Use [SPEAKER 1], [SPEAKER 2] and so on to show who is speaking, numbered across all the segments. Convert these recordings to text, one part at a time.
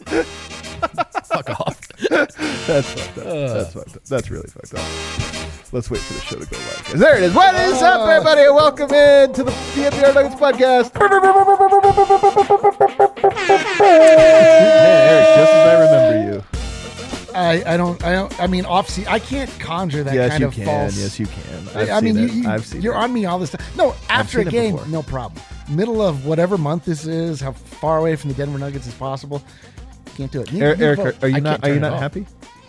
[SPEAKER 1] Fuck off.
[SPEAKER 2] That's fucked up. That's fucked up. That's really fucked up. Let's wait for the show to go live. 'Cause there it is. What is up, everybody? Welcome in to the DNVR Nuggets podcast. Hey, Eric, just as I remember you.
[SPEAKER 3] I mean, I can't conjure that kind of false.
[SPEAKER 2] Yes, you can. I've seen
[SPEAKER 3] you're
[SPEAKER 2] it.
[SPEAKER 3] on me all this time. No, after a
[SPEAKER 2] seen it
[SPEAKER 3] game,
[SPEAKER 2] before.
[SPEAKER 3] no problem. Middle of whatever month this is, how far away from the Denver Nuggets as possible. Can't do it.
[SPEAKER 2] Eric, are you
[SPEAKER 3] I
[SPEAKER 2] not
[SPEAKER 3] can't turn it off.
[SPEAKER 2] happy?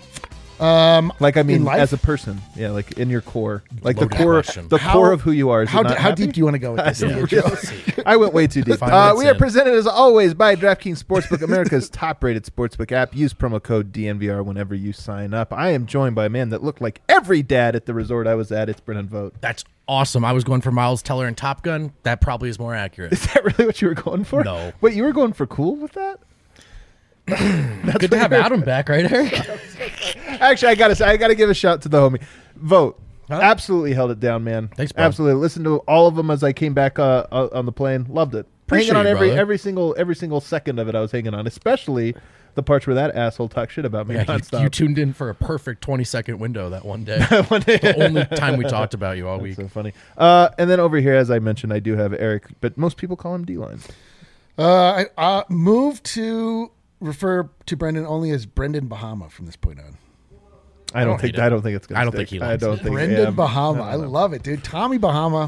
[SPEAKER 3] Like
[SPEAKER 2] I mean,
[SPEAKER 3] in life?
[SPEAKER 2] as a person, yeah, like in your core, like
[SPEAKER 1] Loaded
[SPEAKER 2] the core,
[SPEAKER 1] question.
[SPEAKER 2] core of who you are. Is
[SPEAKER 3] How
[SPEAKER 2] it not happy?
[SPEAKER 3] deep do you want to go with this?
[SPEAKER 1] Yeah.
[SPEAKER 2] I went way too deep.
[SPEAKER 1] 5 minutes
[SPEAKER 2] We are
[SPEAKER 1] in.
[SPEAKER 2] presented as always by DraftKings Sportsbook, America's top-rated sportsbook app. Use promo code DNVR whenever you sign up. I am joined by a man that looked like every dad at the resort I was at. It's Brennan Vogt.
[SPEAKER 1] That's awesome. I was going for Miles Teller and Top Gun. That probably is more accurate.
[SPEAKER 2] Is that really what you were going for?
[SPEAKER 1] No.
[SPEAKER 2] Wait, you were going for cool with that?
[SPEAKER 1] Good to have Adam back, right, Eric?
[SPEAKER 2] Actually, I gotta give a shout to the homie. Vote.
[SPEAKER 1] Huh?
[SPEAKER 2] Absolutely held it down, man.
[SPEAKER 1] Thanks, bro.
[SPEAKER 2] Absolutely. Listened to all of them as I came back on the plane. Loved it.
[SPEAKER 1] Appreciate
[SPEAKER 2] hanging on
[SPEAKER 1] you,
[SPEAKER 2] every
[SPEAKER 1] brother.
[SPEAKER 2] every single second of it. I was hanging on, especially the parts where that asshole talked shit about me
[SPEAKER 1] Yeah,
[SPEAKER 2] nonstop.
[SPEAKER 1] you tuned in for a perfect 20-second window that one day. The only time we talked about you all week.
[SPEAKER 2] So funny. And then over here, as I mentioned, I do have Eric, but most people call him D-Line.
[SPEAKER 3] I moved to refer to Brendan only as Brendan Bahama from this point on.
[SPEAKER 2] I don't think
[SPEAKER 1] hate it.
[SPEAKER 2] it's gonna.
[SPEAKER 1] I don't
[SPEAKER 2] stick.
[SPEAKER 1] think he likes it.
[SPEAKER 3] Brendan Bahama.
[SPEAKER 2] I
[SPEAKER 3] I
[SPEAKER 2] don't know.
[SPEAKER 3] love it, dude. Tommy Bahama.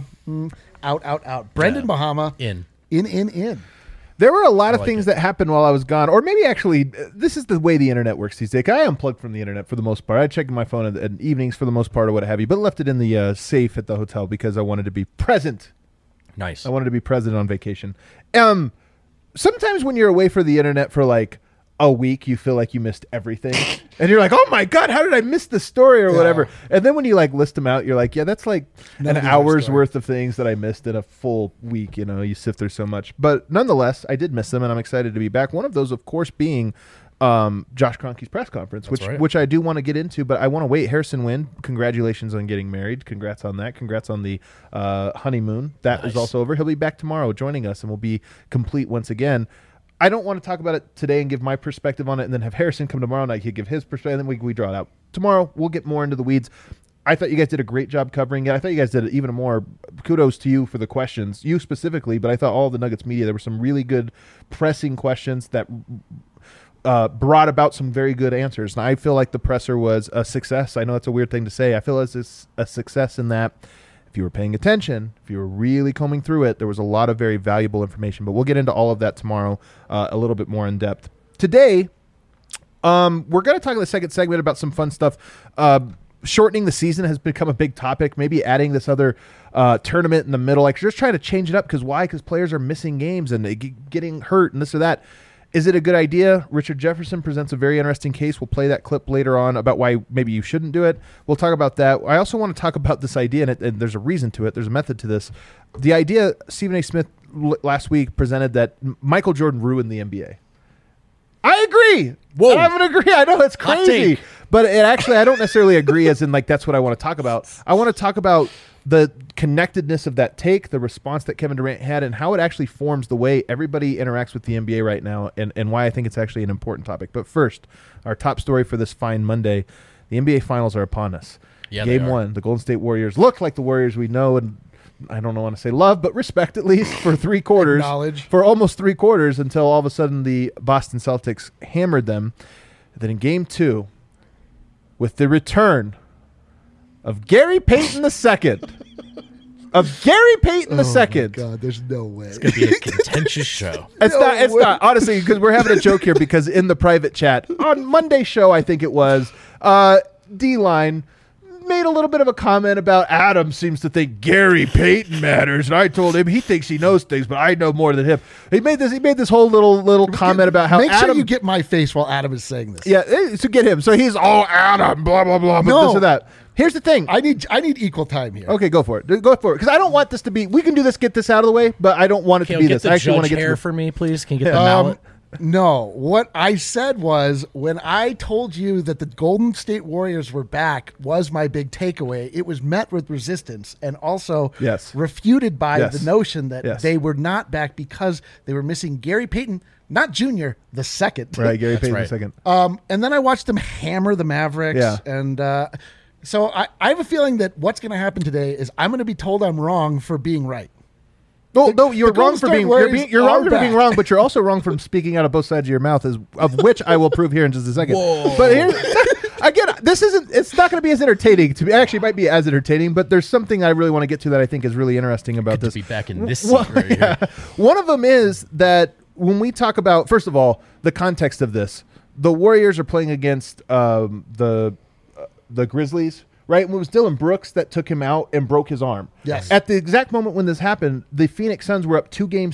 [SPEAKER 3] Out. Brendan
[SPEAKER 1] Yeah.
[SPEAKER 3] Bahama.
[SPEAKER 1] In.
[SPEAKER 3] In.
[SPEAKER 2] There were a lot of
[SPEAKER 1] like
[SPEAKER 2] things
[SPEAKER 1] it.
[SPEAKER 2] that happened while I was gone, or maybe actually, this is the way the internet works these days. I unplugged from the internet for the most part. I checked my phone at evenings for the most part, or what have you, but left it in the safe at the hotel because I wanted to be present.
[SPEAKER 1] Nice.
[SPEAKER 2] I wanted to be present on vacation. Sometimes when you're away for the internet for like a week, you feel like you missed everything, and you're like, "Oh my god, how did I miss the story or
[SPEAKER 3] Yeah.
[SPEAKER 2] whatever?" And then when you like list them out, you're like, "Yeah, that's like
[SPEAKER 3] None
[SPEAKER 2] an
[SPEAKER 3] of these are a
[SPEAKER 2] hour's
[SPEAKER 3] story.
[SPEAKER 2] worth of things that I missed in a full week." You know, you sift through so much, but nonetheless, I did miss them, and I'm excited to be back. One of those, of course, being Josh Kroenke's press conference,
[SPEAKER 1] That's right.
[SPEAKER 2] which I do want to get into, but I want to wait. Harrison Wind, congratulations on getting married. Congrats on that. Congrats on the honeymoon. That is
[SPEAKER 1] Nice.
[SPEAKER 2] also over. He'll be back tomorrow joining us, and we'll be complete once again. I don't want to talk about it today and give my perspective on it, and then have Harrison come tomorrow night. He'll give his perspective, and then we draw it out. Tomorrow, we'll get more into the weeds. I thought you guys did a great job covering it. I thought you guys did even more. Kudos to you for the questions, you specifically, but I thought all of the Nuggets media, there were some really good pressing questions that brought about some very good answers. And I feel like the presser was a success. I know it's a weird thing to say. I feel it's a success in that if you were paying attention, if you were really combing through it, there was a lot of very valuable information. But we'll get into all of that tomorrow a little bit more in depth. Today, we're going to talk in the second segment about some fun stuff. Shortening the season has become a big topic. Maybe adding this other tournament in the middle. Like, just trying to change it up. Because why? Because players are missing games and they getting hurt and this or that. Is it a good idea? Richard Jefferson presents a very interesting case. We'll play that clip later on about why maybe you shouldn't do it. We'll talk about that. I also want to talk about this idea, and there's a reason to it. There's a method to this. The idea, Stephen A. Smith last week presented that Michael Jordan ruined the NBA. I agree.
[SPEAKER 1] Whoa.
[SPEAKER 2] I don't agree. I know it's
[SPEAKER 1] Hot
[SPEAKER 2] crazy.
[SPEAKER 1] take.
[SPEAKER 2] But it actually, I don't necessarily agree as in like that's what I want to talk about. I want to talk about the connectedness of that take, the response that Kevin Durant had, and how it actually forms the way everybody interacts with the NBA right now, and why I think it's actually an important topic. But first, our top story for this fine Monday, the NBA Finals are upon us.
[SPEAKER 1] Yeah, they
[SPEAKER 2] Game
[SPEAKER 1] are.
[SPEAKER 2] 1, the Golden State Warriors look like the Warriors we know and I don't want to say love, but respect at least for 3 quarters.
[SPEAKER 3] Acknowledge.
[SPEAKER 2] For almost 3 quarters until all of a sudden the Boston Celtics hammered them. And then in Game 2, with the return of Gary Payton II. Of Gary Payton
[SPEAKER 3] Oh my
[SPEAKER 2] II.
[SPEAKER 3] God, there's no way.
[SPEAKER 1] It's going to be a contentious show.
[SPEAKER 2] It's
[SPEAKER 3] No
[SPEAKER 2] not. It's
[SPEAKER 3] way.
[SPEAKER 2] not. Honestly, because we're having a joke here because in the private chat on Monday's show, I think it was, D-Line made a little bit of a comment about Adam seems to think Gary Payton matters, and I told him he thinks he knows things, but I know more than him. He made this whole little comment about how
[SPEAKER 3] Make
[SPEAKER 2] Adam.
[SPEAKER 3] sure you get my face while Adam is saying this.
[SPEAKER 2] Yeah, to get him. So he's Adam, blah blah blah, but
[SPEAKER 3] No.
[SPEAKER 2] this or that. Here's the thing.
[SPEAKER 3] I need equal time here.
[SPEAKER 2] Okay, go for it. Go for it. Because I don't want this to be. We can do this, get this out of the way, but I don't want it
[SPEAKER 1] Can
[SPEAKER 2] to
[SPEAKER 1] you
[SPEAKER 2] be
[SPEAKER 1] get
[SPEAKER 2] this.
[SPEAKER 1] the
[SPEAKER 2] I actually want
[SPEAKER 1] judge
[SPEAKER 2] to get
[SPEAKER 1] hair
[SPEAKER 2] to
[SPEAKER 1] for me, please? Can you get the mallet?
[SPEAKER 3] No, what I said was when I told you that the Golden State Warriors were back was my big takeaway. It was met with resistance and also refuted by the notion that they were not back because they were missing Gary Payton, not Jr., the second.
[SPEAKER 2] Right, Gary Payton the second.
[SPEAKER 3] And then I watched them hammer the Mavericks.
[SPEAKER 2] Yeah.
[SPEAKER 3] And so I have a feeling that what's going to happen today is I'm going to be told I'm wrong for being right.
[SPEAKER 2] No, you're wrong for being wrong for being wrong, but you're also wrong from speaking out of both sides of your mouth, of which I will prove here in just a second.
[SPEAKER 1] Whoa.
[SPEAKER 2] But here, again, it's not going to be as entertaining to me. Actually, it might be as entertaining, but there's something I really want to get to that I think is really interesting about this.
[SPEAKER 1] To be back in this seat right here.
[SPEAKER 2] One of them is that when we talk about, first of all, the context of this, the Warriors are playing against the Grizzlies. Right? And it was Dylan Brooks that took him out and broke his arm.
[SPEAKER 3] Yes.
[SPEAKER 2] At the exact moment when this happened, the Phoenix Suns were up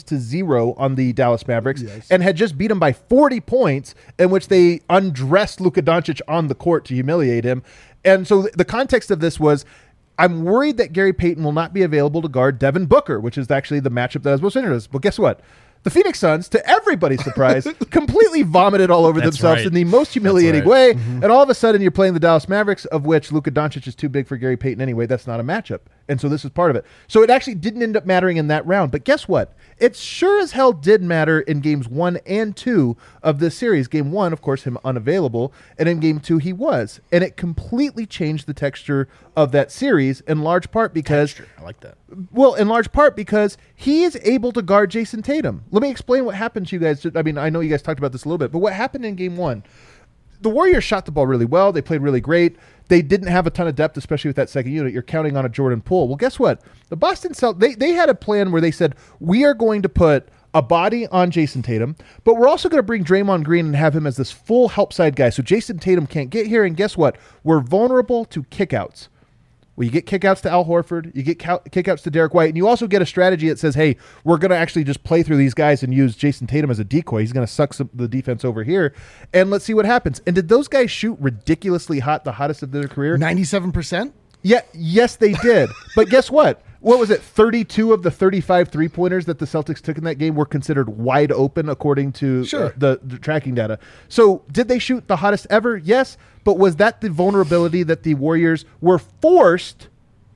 [SPEAKER 2] 2-0 on the Dallas Mavericks and had just beat them by 40 points, in which they undressed Luka Doncic on the court to humiliate him. And so the context of this was, I'm worried that Gary Payton will not be available to guard Devin Booker, which is actually the matchup that I was most interested in. But guess what? The Phoenix Suns, to everybody's surprise, completely vomited all over themselves in the most humiliating way. Mm-hmm. And all of a sudden, you're playing the Dallas Mavericks, of which Luka Doncic is too big for Gary Payton anyway. That's not a matchup. And so this is part of it. So it actually didn't end up mattering in that round. But guess what? It sure as hell did matter in games 1 and 2 of this series. Game 1, of course, him unavailable. And in game 2, he was. And it completely changed the texture of that series, in large part because...
[SPEAKER 1] Texture. I like that.
[SPEAKER 2] Well, in large part because he is able to guard Jason Tatum. Let me explain what happened to you guys. I mean, I know you guys talked about this a little bit, but what happened in game 1? The Warriors shot the ball really well. They played really great. They didn't have a ton of depth, especially with that second unit. You're counting on a Jordan Poole. Well, guess what? The Boston Celtics, they had a plan where they said, we are going to put a body on Jason Tatum, but we're also going to bring Draymond Green and have him as this full help side guy so Jason Tatum can't get here. And guess what? We're vulnerable to kickouts. Well, you get kickouts to Al Horford, you get kickouts to Derek White, and you also get a strategy that says, hey, we're going to actually just play through these guys and use Jason Tatum as a decoy. He's going to suck the defense over here, and let's see what happens. And did those guys shoot ridiculously hot, the hottest of their career?
[SPEAKER 3] 97%?
[SPEAKER 2] Yeah, yes, they did. But guess what? What was it? 32 of the 35 three-pointers that the Celtics took in that game were considered wide open according to the tracking data. So did they shoot the hottest ever? Yes. But was that the vulnerability that the Warriors were forced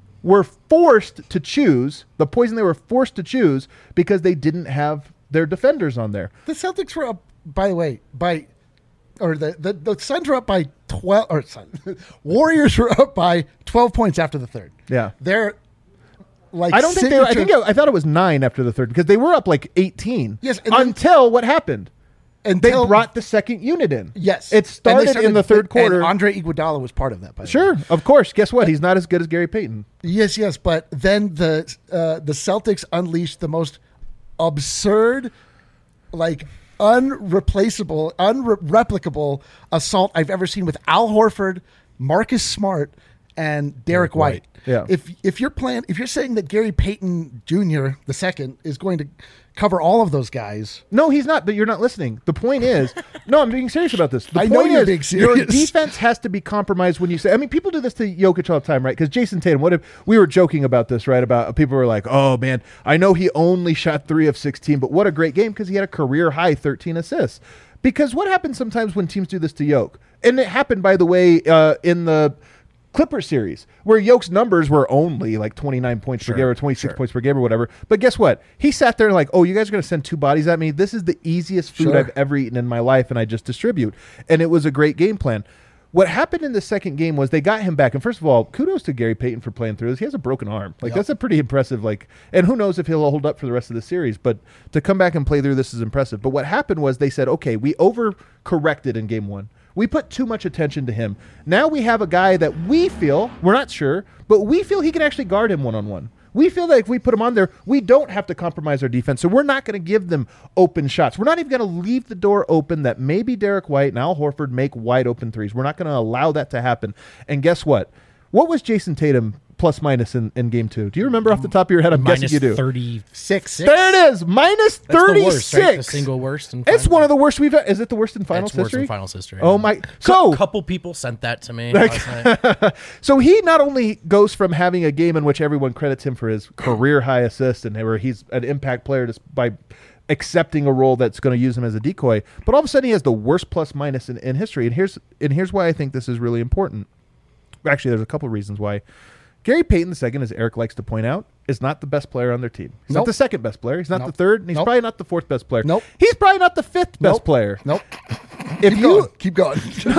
[SPEAKER 2] to choose, the poison they were forced to choose because they didn't have their defenders on there?
[SPEAKER 3] The Celtics were up, by the way, the Suns were up by 12, or Warriors were up by 12 points after the third.
[SPEAKER 2] Yeah.
[SPEAKER 3] They're like
[SPEAKER 2] I don't think they were, I thought it was 9 after the third because they were up like 18.
[SPEAKER 3] Yes.
[SPEAKER 2] Until what happened? They brought the second unit in.
[SPEAKER 3] Yes.
[SPEAKER 2] It started in the third quarter.
[SPEAKER 3] And Andre Iguodala was part of that, by the way.
[SPEAKER 2] Sure, of course. Guess what? He's not as good as Gary Payton.
[SPEAKER 3] Yes. But then the Celtics unleashed the most absurd, like unreplaceable, unreplicable assault I've ever seen with Al Horford, Marcus Smart, and Derek White.
[SPEAKER 2] Yeah.
[SPEAKER 3] If you're saying that Gary Payton Jr. the second is going to cover all of those guys.
[SPEAKER 2] No, he's not, but you're not listening. The point is, no, I'm being serious about this.
[SPEAKER 3] I know you're being serious.
[SPEAKER 2] Your defense has to be compromised when you say, I mean, people do this to Jokic all the time, right? Because Jason Tatum, we were joking about this, right? About people were like, oh man, I know he only shot 3 of 16, but what a great game because he had a career high 13 assists. Because what happens sometimes when teams do this to Jokic? And it happened, by the way, in the Clippers series, where Jokic numbers were only like 29 points per game or 26 points per game or whatever. But guess what? He sat there and like, oh, you guys are going to send 2 bodies at me? This is the easiest food I've ever eaten in my life, and I just distribute. And it was a great game plan. What happened in the second game was they got him back. And first of all, kudos to Gary Payton for playing through this. He has a broken arm. That's a pretty impressive, and who knows if he'll hold up for the rest of the series. But to come back and play through this is impressive. But what happened was they said, okay, we overcorrected in game 1. We put too much attention to him. Now we have a guy that we feel, we're not sure, but we feel he can actually guard him one-on-one. We feel that if we put him on there, we don't have to compromise our defense. So we're not going to give them open shots. We're not even going to leave the door open that maybe Derek White and Al Horford make wide open threes. We're not going to allow that to happen. And guess what? What was Jason Tatum plus minus in game 2? Do you remember off the top of your head? I'm guessing you do.
[SPEAKER 1] -36.
[SPEAKER 2] There it is. Minus 36.
[SPEAKER 1] That's the worst, right? The single worst.
[SPEAKER 2] It's one of the worst we've had. Is it the worst in finals history?
[SPEAKER 1] Worst in finals history.
[SPEAKER 2] Oh my. So
[SPEAKER 1] a couple people sent that to me last night.
[SPEAKER 2] So he not only goes from having a game in which everyone credits him for his career high assist and where he's an impact player by accepting a role that's going to use him as a decoy. But all of a sudden, he has the worst plus minus in history. And here's why I think this is really important. Actually, there's a couple of reasons why. Gary Payton II, as Eric likes to point out, is not the best player on their team. He's not the second best player. He's not the third. And he's probably not the fourth best player. He's probably not the fifth best player.
[SPEAKER 3] Keep going.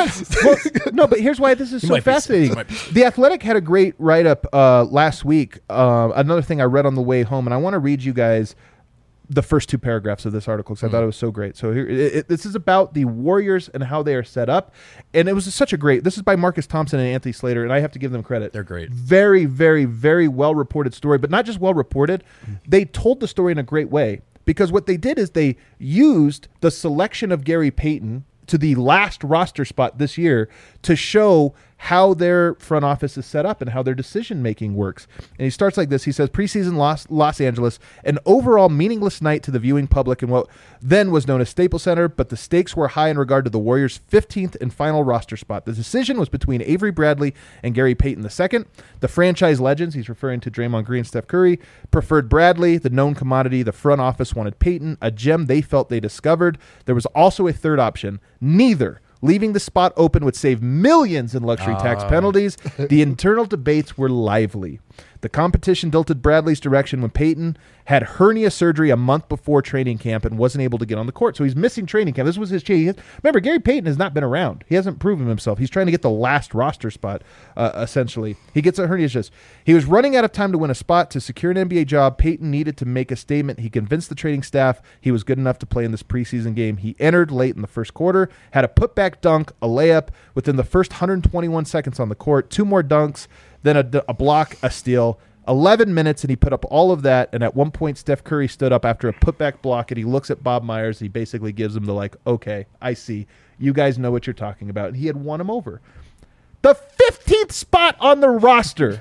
[SPEAKER 2] No, but here's why this is so fascinating. The Athletic had a great write-up last week. Another thing I read on the way home, and I want to read you guys the first two paragraphs of this article because I thought it was so great. So here, this is about the Warriors and how they are set up. And it was such a great, this is by Marcus Thompson and Anthony Slater, and I have to give them credit.
[SPEAKER 1] They're great.
[SPEAKER 2] Very, very, very well-reported story, but not just well-reported. They told the story in a great way because what they did is they used the selection of Gary Payton to the last roster spot this year to show how their front office is set up and how their decision-making works. And he starts like this. He says, preseason Los Angeles, an overall meaningless night to the viewing public in what then was known as Staples Center, but the stakes were high in regard to the Warriors' 15th and final roster spot. The decision was between Avery Bradley and Gary Payton II. The franchise legends, he's referring to Draymond Green and Steph Curry, preferred Bradley, the known commodity. The front office wanted Payton, a gem they felt they discovered. There was also a third option. Neither. Leaving the spot open would save millions in luxury tax penalties. The internal debates were lively. The competition tilted Bradley's direction when Payton had hernia surgery a month before training camp and wasn't able to get on the court. So he's missing training camp. This was his chance. Remember, Gary Payton has not been around. He hasn't proven himself. He's trying to get the last roster spot, essentially. He gets a hernia just. He was running out of time to win a spot. To secure an NBA job, Payton needed to make a statement. He convinced the training staff he was good enough to play in this preseason game. He entered late in the first quarter, had a putback dunk, a layup within the first 121 seconds on the court, 2 more dunks, then a block, a steal, 11 minutes, and he put up all of that. And at one point, Steph Curry stood up after a putback block, and he looks at Bob Myers. He basically gives him the okay, I see. You guys know what you're talking about. And he had won him over. The 15th spot on the roster.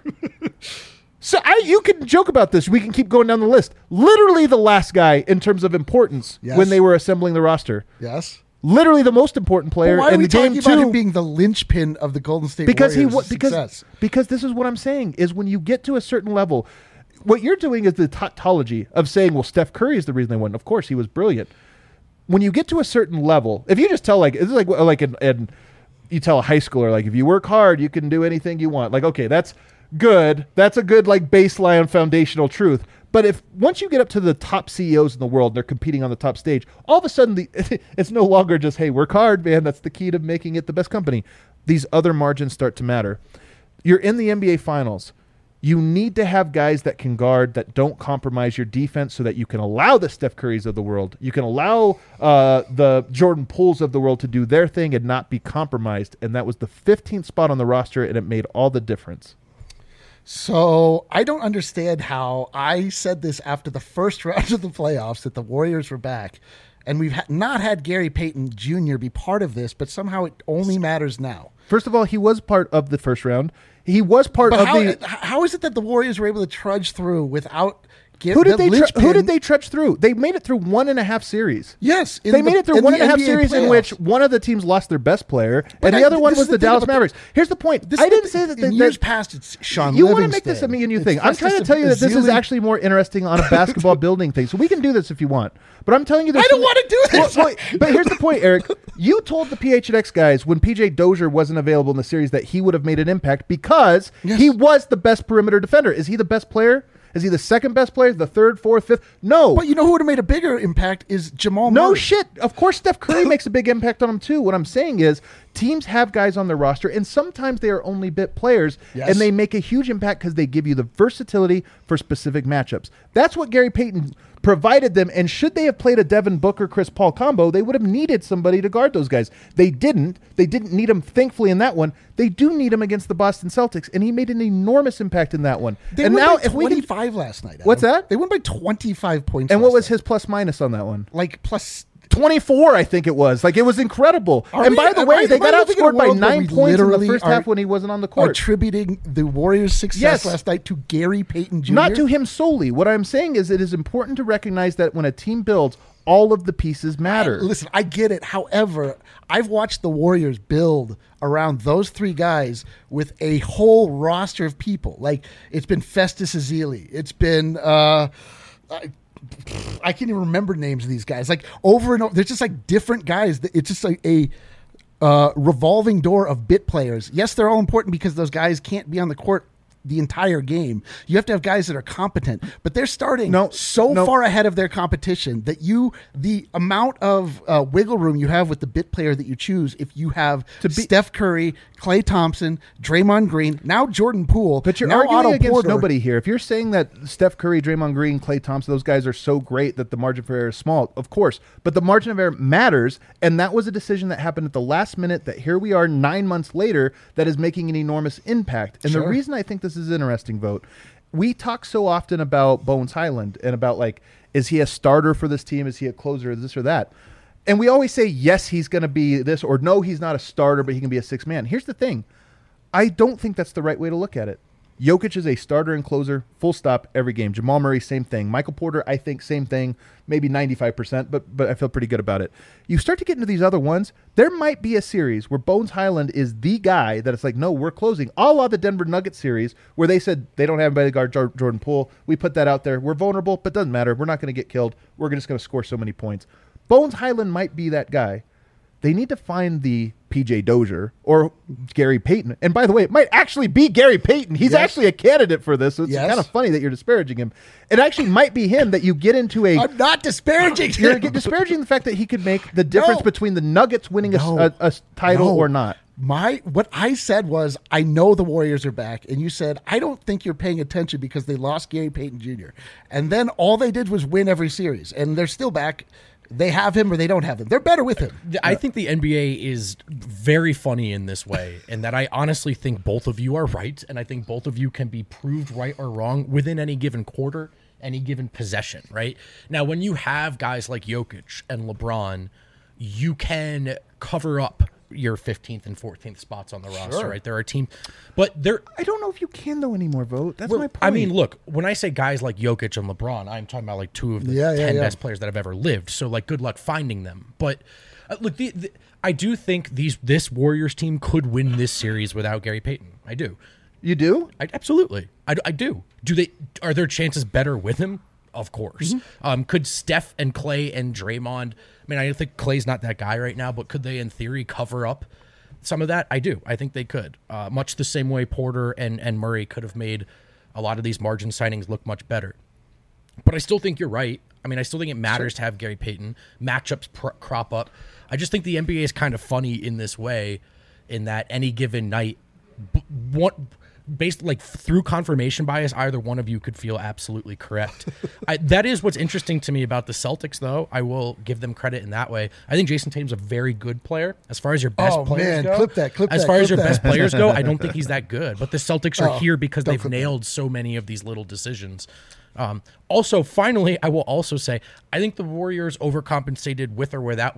[SPEAKER 2] So you can joke about this. We can keep going down the list. Literally the last guy in terms of importance when they were assembling the roster.
[SPEAKER 3] Yes.
[SPEAKER 2] Literally the most important player in the game,
[SPEAKER 3] too. Why are we talking about him being the linchpin of the Golden State Warriors' success?
[SPEAKER 2] Because this is what I'm saying, is when you get to a certain level, what you're doing is the tautology of saying, well, Steph Curry is the reason they won. Of course, he was brilliant. When you get to a certain level, if you just tell, this is you tell a high schooler, if you work hard, you can do anything you want. Okay, that's good. That's a good, baseline foundational truth. But once you get up to the top CEOs in the world, they're competing on the top stage, all of a sudden it's no longer just, hey, work hard, man. That's the key to making it the best company. These other margins start to matter. You're in the NBA Finals. You need to have guys that can guard, that don't compromise your defense so that you can allow the Steph Currys of the world. You can allow the Jordan Pooles of the world to do their thing and not be compromised. And that was the 15th spot on the roster, and it made all the difference.
[SPEAKER 3] So I don't understand how I said this after the first round of the playoffs that the Warriors were back, and we've not had Gary Payton Jr. be part of this, but somehow it only matters now.
[SPEAKER 2] First of all, he was part of the first round. He was part of
[SPEAKER 3] How is it that the Warriors were able to trudge through without
[SPEAKER 2] Who did they trudge through? They made it through 1.5 series.
[SPEAKER 3] Yes.
[SPEAKER 2] They made it through 1.5 series playoffs. In which one of the teams lost their best player, and the other one was the Dallas Mavericks. Here's the point. I didn't say that.
[SPEAKER 3] In years past, it's Sean
[SPEAKER 2] You
[SPEAKER 3] Livingston.
[SPEAKER 2] want to make this a me and you thing. I'm trying to tell you that this is actually more interesting on a basketball building thing. So we can do this if you want. But I'm telling you this.
[SPEAKER 3] I don't want to do this.
[SPEAKER 2] But here's the point, Eric. You told the PHNX guys when PJ Dozier wasn't available in the series that he would have made an impact because he was the best perimeter defender. Is he the best player? Is he the second best player, the third, fourth, fifth? No.
[SPEAKER 3] But you know who would have made a bigger impact is Jamal Murray.
[SPEAKER 2] No shit. Of course, Steph Curry makes a big impact on him too. What I'm saying is teams have guys on their roster, and sometimes they are only bit players, and they make a huge impact because they give you the versatility for specific matchups. That's what Gary Payton provided them, and should they have played a Devin Booker, Chris Paul combo, they would have needed somebody to guard those guys. They didn't. They didn't need him, thankfully, in that one. They do need him against the Boston Celtics, and he made an enormous impact in that one.
[SPEAKER 3] They won by 25 last night. Adam.
[SPEAKER 2] What's that?
[SPEAKER 3] They won by 25 points.
[SPEAKER 2] And what was his plus minus on that one?
[SPEAKER 3] Plus
[SPEAKER 2] 24, I think it was. It was incredible. And by the way, they got outscored by 9 points in the first half when he wasn't on the court.
[SPEAKER 3] Attributing the Warriors' success last night to Gary Payton Jr.?
[SPEAKER 2] Not to him solely. What I'm saying is it is important to recognize that when a team builds, all of the pieces matter.
[SPEAKER 3] Listen, I get it. However, I've watched the Warriors build around those three guys with a whole roster of people. It's been Festus Ezeli. It's been I can't even remember names of these guys. Like over and over, they're just like different guys. It's just like a revolving door of bit players. Yes, they're all important because those guys can't be on the court the entire game. You have to have guys that are competent, but they're starting far ahead of their competition that the amount of wiggle room you have with the bit player that you choose, if you have Steph Curry, Klay Thompson, Draymond Green, now Jordan Poole,
[SPEAKER 2] but you're
[SPEAKER 3] now
[SPEAKER 2] arguing
[SPEAKER 3] Otto
[SPEAKER 2] against
[SPEAKER 3] Porter.
[SPEAKER 2] Nobody here. If you're saying that Steph Curry, Draymond Green, Klay Thompson, those guys are so great that the margin for error is small, of course, but the margin of error matters, and that was a decision that happened at the last minute that here we are 9 months later that is making an enormous impact. And the reason I think this is interesting, Vogt, we talk so often about Bones Hyland and about like, is he a starter for this team? Is he a closer? Is this or that? And we always say, yes, he's going to be this, or no, he's not a starter, but he can be a sixth man. Here's the thing. I don't think that's the right way to look at it. Jokic is a starter and closer, full stop, every game. Jamal Murray, same thing. Michael Porter, I think, same thing, maybe 95%, but I feel pretty good about it. You start to get into these other ones, there might be a series where Bones Hyland is the guy that it's like, no, we're closing. A la the Denver Nuggets series where they said they don't have anybody to guard Jordan Poole. We put that out there. We're vulnerable, but doesn't matter. We're not going to get killed. We're just going to score so many points. Bones Hyland might be that guy. They need to find the PJ Dozier or Gary Payton. And by the way, it might actually be Gary Payton. He's actually a candidate for this. So it's kind of funny that you're disparaging him. It actually might be him that you get into a...
[SPEAKER 3] I'm not disparaging him.
[SPEAKER 2] You're disparaging the fact that he could make the difference between the Nuggets winning a title or not.
[SPEAKER 3] What I said was, I know the Warriors are back, and you said, I don't think you're paying attention because they lost Gary Payton Jr. And then all they did was win every series, and they're still back. They have him or they don't have him. They're better with him.
[SPEAKER 1] I think the NBA is very funny in this way, and that I honestly think both of you are right, and I think both of you can be proved right or wrong within any given quarter, any given possession, right? Now, when you have guys like Jokic and LeBron, you can cover up your 15th and 14th spots on the roster, right? There are teams, but
[SPEAKER 2] I don't know if you can though anymore, Vogt. That's my point.
[SPEAKER 1] I mean, look, when I say guys like Jokic and LeBron, I'm talking about like two of the 10 best players that have ever lived. So like, good luck finding them. But look, I do think this Warriors team could win this series without Gary Payton. I do.
[SPEAKER 2] You do?
[SPEAKER 1] Absolutely. I do. Are their chances better with him? Of course. Mm-hmm. Could Steph and Klay and Draymond, I mean, I think Klay's not that guy right now, but could they in theory cover up some of that? I do. I think they could. Much the same way Porter and Murray could have made a lot of these margin signings look much better. But I still think you're right. I mean, I still think it matters to have Gary Payton. Matchups crop up. I just think the NBA is kind of funny in this way, in that any given night, based like through confirmation bias, either one of you could feel absolutely correct. That is what's interesting to me about the Celtics, though. I will give them credit in that way. I think Jason Tatum's a very good player. As far as your best players go, best players go, I don't think he's that good. But the Celtics are here because they've nailed so many of these little decisions. Also, finally, I will also say, I think the Warriors overcompensated with or without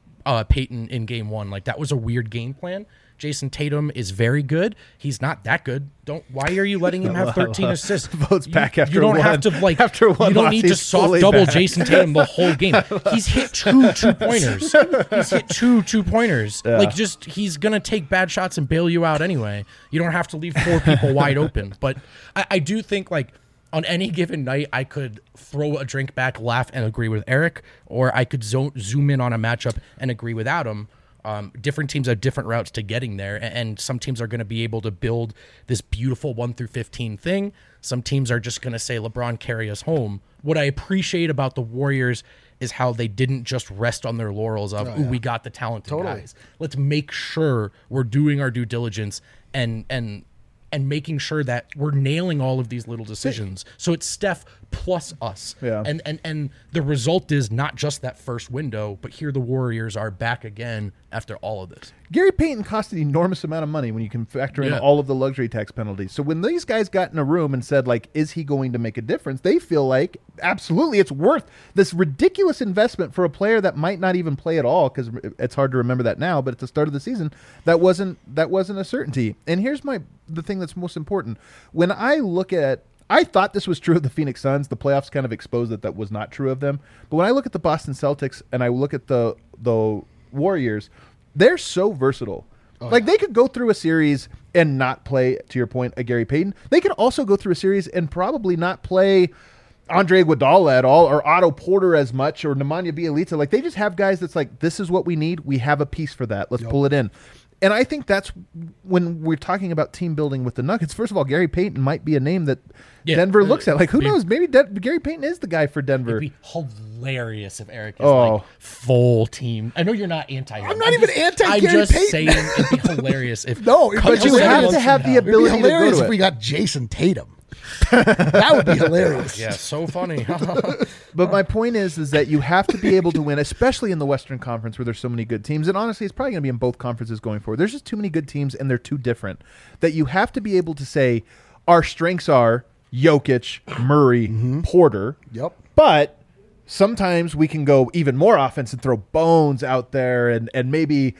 [SPEAKER 1] Payton in game one. Like, that was a weird game plan. Jason Tatum is very good. He's not that good. Why are you letting him have 13 assists?
[SPEAKER 2] Votes back after
[SPEAKER 1] you don't
[SPEAKER 2] one.
[SPEAKER 1] Have to like.
[SPEAKER 2] After one
[SPEAKER 1] you don't
[SPEAKER 2] loss,
[SPEAKER 1] need to soft double Jason Tatum the whole game. He's hit two pointers. He's hit two pointers. Yeah. Like, just he's gonna take bad shots and bail you out anyway. You don't have to leave four people wide open. But I do think, like, on any given night, I could throw a drink back, laugh, and agree with Eric, or I could zoom in on a matchup and agree with Adam. Different teams have different routes to getting there, and some teams are going to be able to build this beautiful 1 through 15 thing. Some teams are just going to say, LeBron, carry us home. What I appreciate about the Warriors is how they didn't just rest on their laurels of, we got the talented guys. Let's make sure we're doing our due diligence and making sure that we're nailing all of these little decisions. So it's Steph plus us. Yeah. And the result is not just that first window, but here the Warriors are back again after all of this.
[SPEAKER 2] Gary Payton cost an enormous amount of money when you can factor in all of the luxury tax penalties. So when these guys got in a room and said, like, is he going to make a difference? They feel like, absolutely, it's worth this ridiculous investment for a player that might not even play at all, because it's hard to remember that now, but at the start of the season, that wasn't a certainty. And here's the thing that's most important. When I look at, I thought this was true of the Phoenix Suns. The playoffs kind of exposed that was not true of them. But when I look at the Boston Celtics and I look at the Warriors, they're so versatile. They could go through a series and not play, to your point, a Gary Payton. They could also go through a series and probably not play Andre Iguodala at all, or Otto Porter as much, or Nemanja Bjelica. Like, they just have guys that's like, this is what we need. We have a piece for that. Let's pull it in. And I think that's when we're talking about team building with the Nuggets. First of all, Gary Payton might be a name that Denver looks at. Like, who knows? Maybe Gary Payton is the guy for Denver.
[SPEAKER 1] It'd be hilarious if Eric is like full team. I know you're not anti him.
[SPEAKER 3] I'm not even anti Gary Payton.
[SPEAKER 1] I'm just saying it'd be hilarious if
[SPEAKER 2] but you have to have the ability to go to it.
[SPEAKER 3] If we got Jason Tatum. That would be hilarious.
[SPEAKER 1] Yeah, so funny.
[SPEAKER 2] But my point is that you have to be able to win, especially in the Western Conference where there's so many good teams. And honestly, it's probably going to be in both conferences going forward. There's just too many good teams, and they're too different. That you have to be able to say, our strengths are Jokic, Murray, Porter.
[SPEAKER 3] Yep.
[SPEAKER 2] But sometimes we can go even more offense and throw Bones out there, and maybe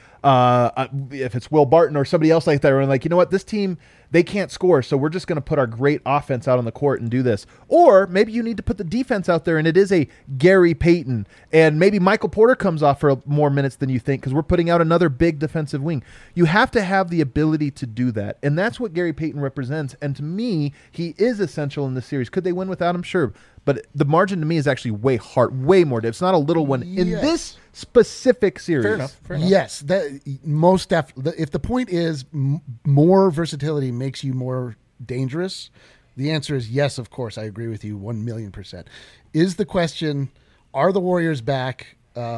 [SPEAKER 2] if it's Will Barton or somebody else like that, we're like, you know what, this team, they can't score, so we're just going to put our great offense out on the court and do this. Or maybe you need to put the defense out there, and it is a Gary Payton, and maybe Michael Porter comes off for more minutes than you think because we're putting out another big defensive wing. You have to have the ability to do that, and that's what Gary Payton represents. And to me, he is essential in this series. Could they win without him? Sure. But the margin to me is actually way more. It's not a little one in this specific series.
[SPEAKER 3] Fair enough. Yes, most definitely. If the point is more versatility makes you more dangerous, the answer is yes. Of course, I agree with you 1,000,000%. Is the question: are the Warriors back?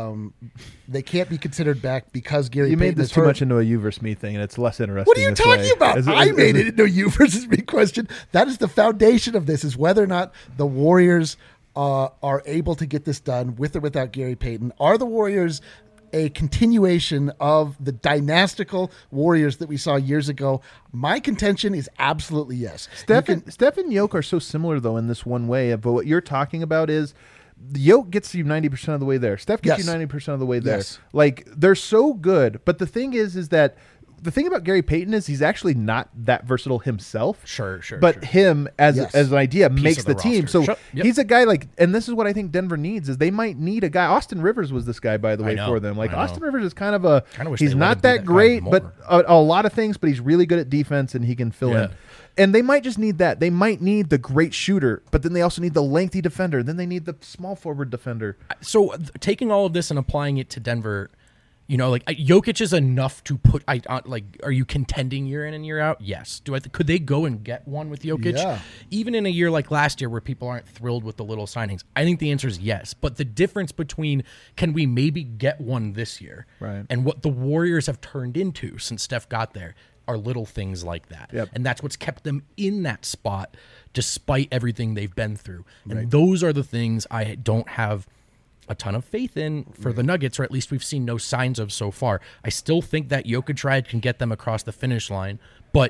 [SPEAKER 3] They can't be considered back because Gary.
[SPEAKER 2] You
[SPEAKER 3] Payton
[SPEAKER 2] made this too much into a you versus me thing, and it's less interesting.
[SPEAKER 3] What are you talking about? I made it into a you versus me question. That is the foundation of this: is whether or not the Warriors are able to get this done with or without Gary Payton. Are the Warriors a continuation of the dynastical Warriors that we saw years ago? My contention is absolutely yes.
[SPEAKER 2] Steph and Jokic are so similar, though, in this one way. But what you're talking about is Jokic gets you 90% of the way there. Steph gets you 90% of the way there.
[SPEAKER 3] Yes.
[SPEAKER 2] Like, they're so good. But the thing is that the thing about Gary Payton is he's actually not that versatile himself.
[SPEAKER 1] Sure.
[SPEAKER 2] But him as an idea makes the team.
[SPEAKER 1] Roster.
[SPEAKER 2] So he's a guy like, and this is what I think Denver needs is they might need a guy. Austin Rivers was this guy, by the way, for them. Like, Austin Rivers is kind of he's not that great, but a lot of things, but he's really good at defense and he can fill in. And they might just need that. They might need the great shooter, but then they also need the lengthy defender. Then they need the small forward defender.
[SPEAKER 1] So taking all of this and applying it to Denver, you know, like Jokic is enough to put. Are you contending year in and year out? Yes. Could they go and get one with Jokic?
[SPEAKER 3] Yeah.
[SPEAKER 1] Even in a year like last year where people aren't thrilled with the little signings, I think the answer is yes. But the difference between can we maybe get one this year,
[SPEAKER 2] right,
[SPEAKER 1] and what the Warriors have turned into since Steph got there are little things like that.
[SPEAKER 2] Yep.
[SPEAKER 1] And that's what's kept them in that spot despite everything they've been through. And those are the things I don't have a ton of faith in for the Nuggets, or at least we've seen no signs of so far. I still think that Jokic ride can get them across the finish line, but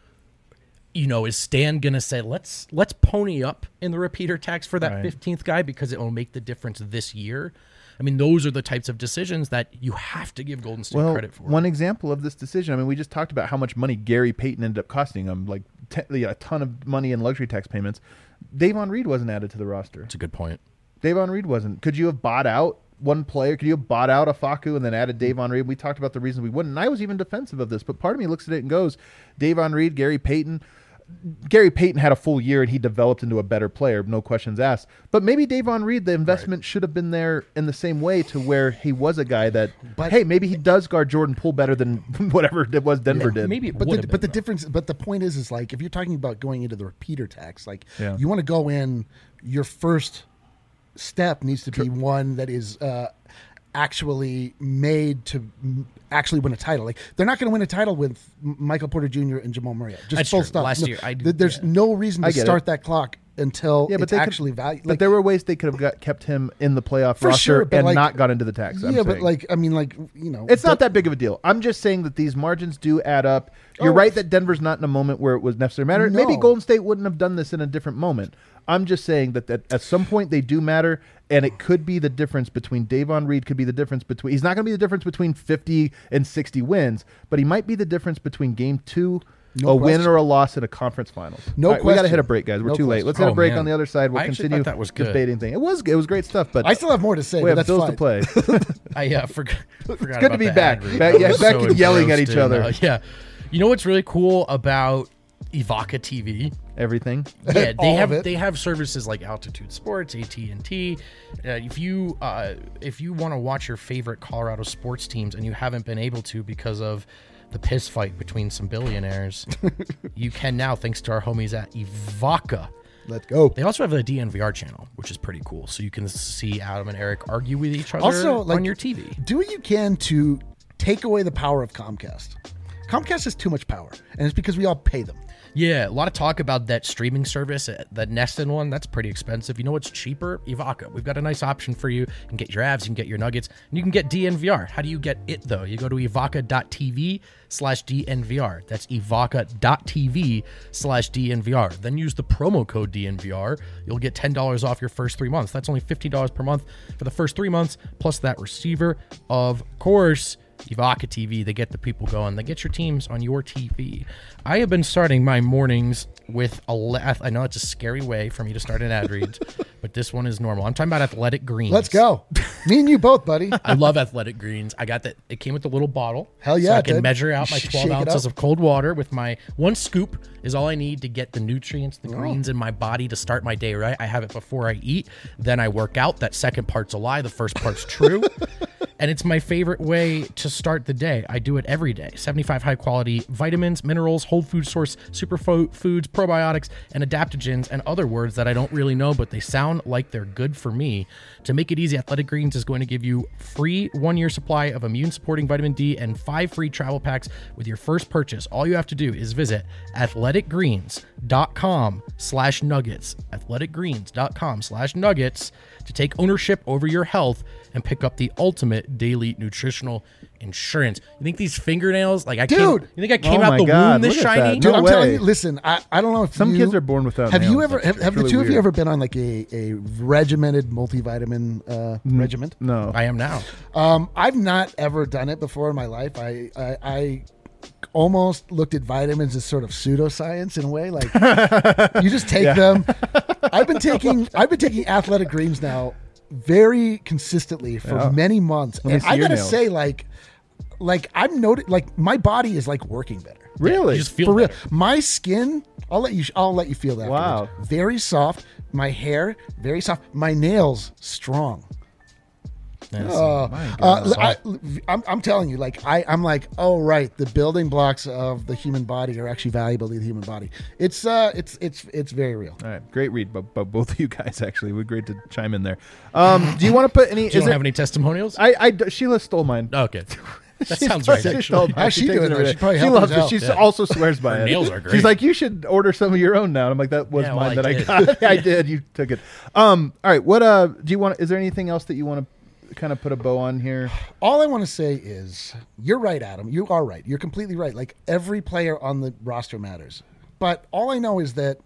[SPEAKER 1] you know, is Stan gonna say let's pony up in the repeater tax for that 15th guy because it will make the difference this year? I mean, those are the types of decisions that you have to give Golden State credit for.
[SPEAKER 2] One example of this decision, I mean, we just talked about how much money Gary Payton ended up costing them, like a ton of money in luxury tax payments. Davon Reed wasn't added to the roster.
[SPEAKER 1] That's a good point.
[SPEAKER 2] Davon Reed wasn't. Could you have bought out one player? Could you have bought out a Facu and then added Davon Reed? We talked about the reasons we wouldn't. And I was even defensive of this, but part of me looks at it and goes, Davon Reed, Gary Payton. Gary Payton had a full year and he developed into a better player, no questions asked. But maybe Davon Reed, the investment should have been there in the same way to where he was a guy that, hey, maybe he does guard Jordan Poole better than whatever it was Denver did.
[SPEAKER 1] Maybe it
[SPEAKER 3] but the difference, but the point is like if you're talking about going into the repeater tax, like you want to go in, your first step needs to be one that is actually made to actually win a title. Like they're not going to win a title with Michael Porter Jr. and Jamal Murray. Just
[SPEAKER 1] That's
[SPEAKER 3] full
[SPEAKER 1] true.
[SPEAKER 3] stop.
[SPEAKER 1] Last year,
[SPEAKER 3] there's no reason to start that clock until it's actually valuable.
[SPEAKER 2] But there were ways they could have kept him in the playoff roster and not got into the tax.
[SPEAKER 3] But
[SPEAKER 2] it's not that big of a deal. I'm just saying that these margins do add up. You're right that Denver's not in a moment where it was necessarily matter.
[SPEAKER 3] No.
[SPEAKER 2] Maybe Golden State wouldn't have done this in a different moment. I'm just saying that at some point they do matter, and it could be the difference between Davon Reed could be the difference between. He's not going to be the difference between 50 and 60 wins, but he might be the difference between game 2. Win or a loss in a conference finals.
[SPEAKER 3] No question.
[SPEAKER 2] We got to hit a break, guys. We're too late. Let's hit a break on the other side. We'll continue
[SPEAKER 1] that was
[SPEAKER 2] this baiting thing. It was great stuff, but
[SPEAKER 3] I still have more to say.
[SPEAKER 2] We have
[SPEAKER 3] that's
[SPEAKER 2] bills
[SPEAKER 3] fine.
[SPEAKER 2] to play.
[SPEAKER 1] I forgot.
[SPEAKER 2] It's good to be back. Back yelling at each other.
[SPEAKER 1] Yeah. You know what's really cool about Evoca TV.
[SPEAKER 2] Everything.
[SPEAKER 1] Yeah, they have services like Altitude Sports, AT&T. If you want to watch your favorite Colorado sports teams and you haven't been able to because of the piss fight between some billionaires, you can now, thanks to our homies at Evoca.
[SPEAKER 3] Let's go.
[SPEAKER 1] They also have a DNVR channel, which is pretty cool. So you can see Adam and Eric argue with each other
[SPEAKER 3] also,
[SPEAKER 1] on your TV.
[SPEAKER 3] Do what you can to take away the power of Comcast. Comcast has too much power, and it's because we all pay them.
[SPEAKER 1] Yeah, a lot of talk about that streaming service, that Neston one. That's pretty expensive. You know what's cheaper? Evoca. We've got a nice option for you. You can get your Avs, you can get your Nuggets, and you can get DNVR. How do you get it, though? You go to evoca.tv/DNVR. That's evoca.tv/DNVR. Then use the promo code DNVR. You'll get $10 off your first 3 months. That's only $50 per month for the first 3 months, plus that receiver. Of course, Evoca TV, they get the people going. They get your teams on your TV. I have been starting my mornings with I know it's a scary way for me to start an ad read, but this one is normal. I'm talking about Athletic Greens.
[SPEAKER 3] Let's go. Me and you both, buddy.
[SPEAKER 1] I love Athletic Greens. I got that. It came with a little bottle.
[SPEAKER 3] Hell yeah,
[SPEAKER 1] so I can measure out my 12 ounces of cold water with my 1 scoop is all I need to get the nutrients, the greens in my body to start my day right. I have it before I eat. Then I work out. That second part's a lie. The first part's true. And it's my favorite way to start the day. I do it every day. 75 high-quality vitamins, minerals, whole food source, superfoods, probiotics, and adaptogens, and other words that I don't really know, but they sound like they're good for me. To make it easy, Athletic Greens is going to give you free 1-year supply of immune-supporting vitamin D and 5 free travel packs with your first purchase. All you have to do is visit athleticgreens.com/nuggets, athleticgreens.com/nuggets, to take ownership over your health and pick up the ultimate daily nutritional insurance. You think these fingernails, like you think I came out the womb this shiny?
[SPEAKER 3] Dude, I'm telling you, listen, I don't know if
[SPEAKER 2] some kids are born without
[SPEAKER 3] have
[SPEAKER 2] nails.
[SPEAKER 3] You ever have the two of you ever been on like a regimented multivitamin regiment?
[SPEAKER 2] No.
[SPEAKER 1] I am now.
[SPEAKER 3] I've not ever done it before in my life. I almost looked at vitamins as sort of pseudoscience in a way. Like you just take them. I've been taking Athletic Greens now very consistently for many months, and I gotta say, like I'm noticing, like my body is like working better.
[SPEAKER 2] Really?
[SPEAKER 1] You just feel
[SPEAKER 3] for
[SPEAKER 1] better.
[SPEAKER 3] real. My skin, I'll let you feel that.
[SPEAKER 2] Wow.
[SPEAKER 3] Very soft. My hair, very soft. My nails, strong. I'm telling you, like I'm like, oh right, the building blocks of the human body are actually valuable to the human body. It's very real.
[SPEAKER 2] All right, great read, but both of you guys actually, we're great to chime in there. Do you want to put any?
[SPEAKER 1] Do you have any testimonials?
[SPEAKER 2] Sheila stole mine.
[SPEAKER 1] Oh, okay. That sounds right. Actually.
[SPEAKER 3] How's she doing it?
[SPEAKER 2] She loves it. She also swears by
[SPEAKER 1] Her
[SPEAKER 2] it.
[SPEAKER 1] nails are great.
[SPEAKER 2] She's like, you should order some of your own now. And I'm like, that was mine that I got. I did. You took it. All right. What do you want? Is there anything else that you want to kind of put a bow on here?
[SPEAKER 3] All I want to say is you're right, Adam. You are right. You're completely right. Like every player on the roster matters. But all I know is that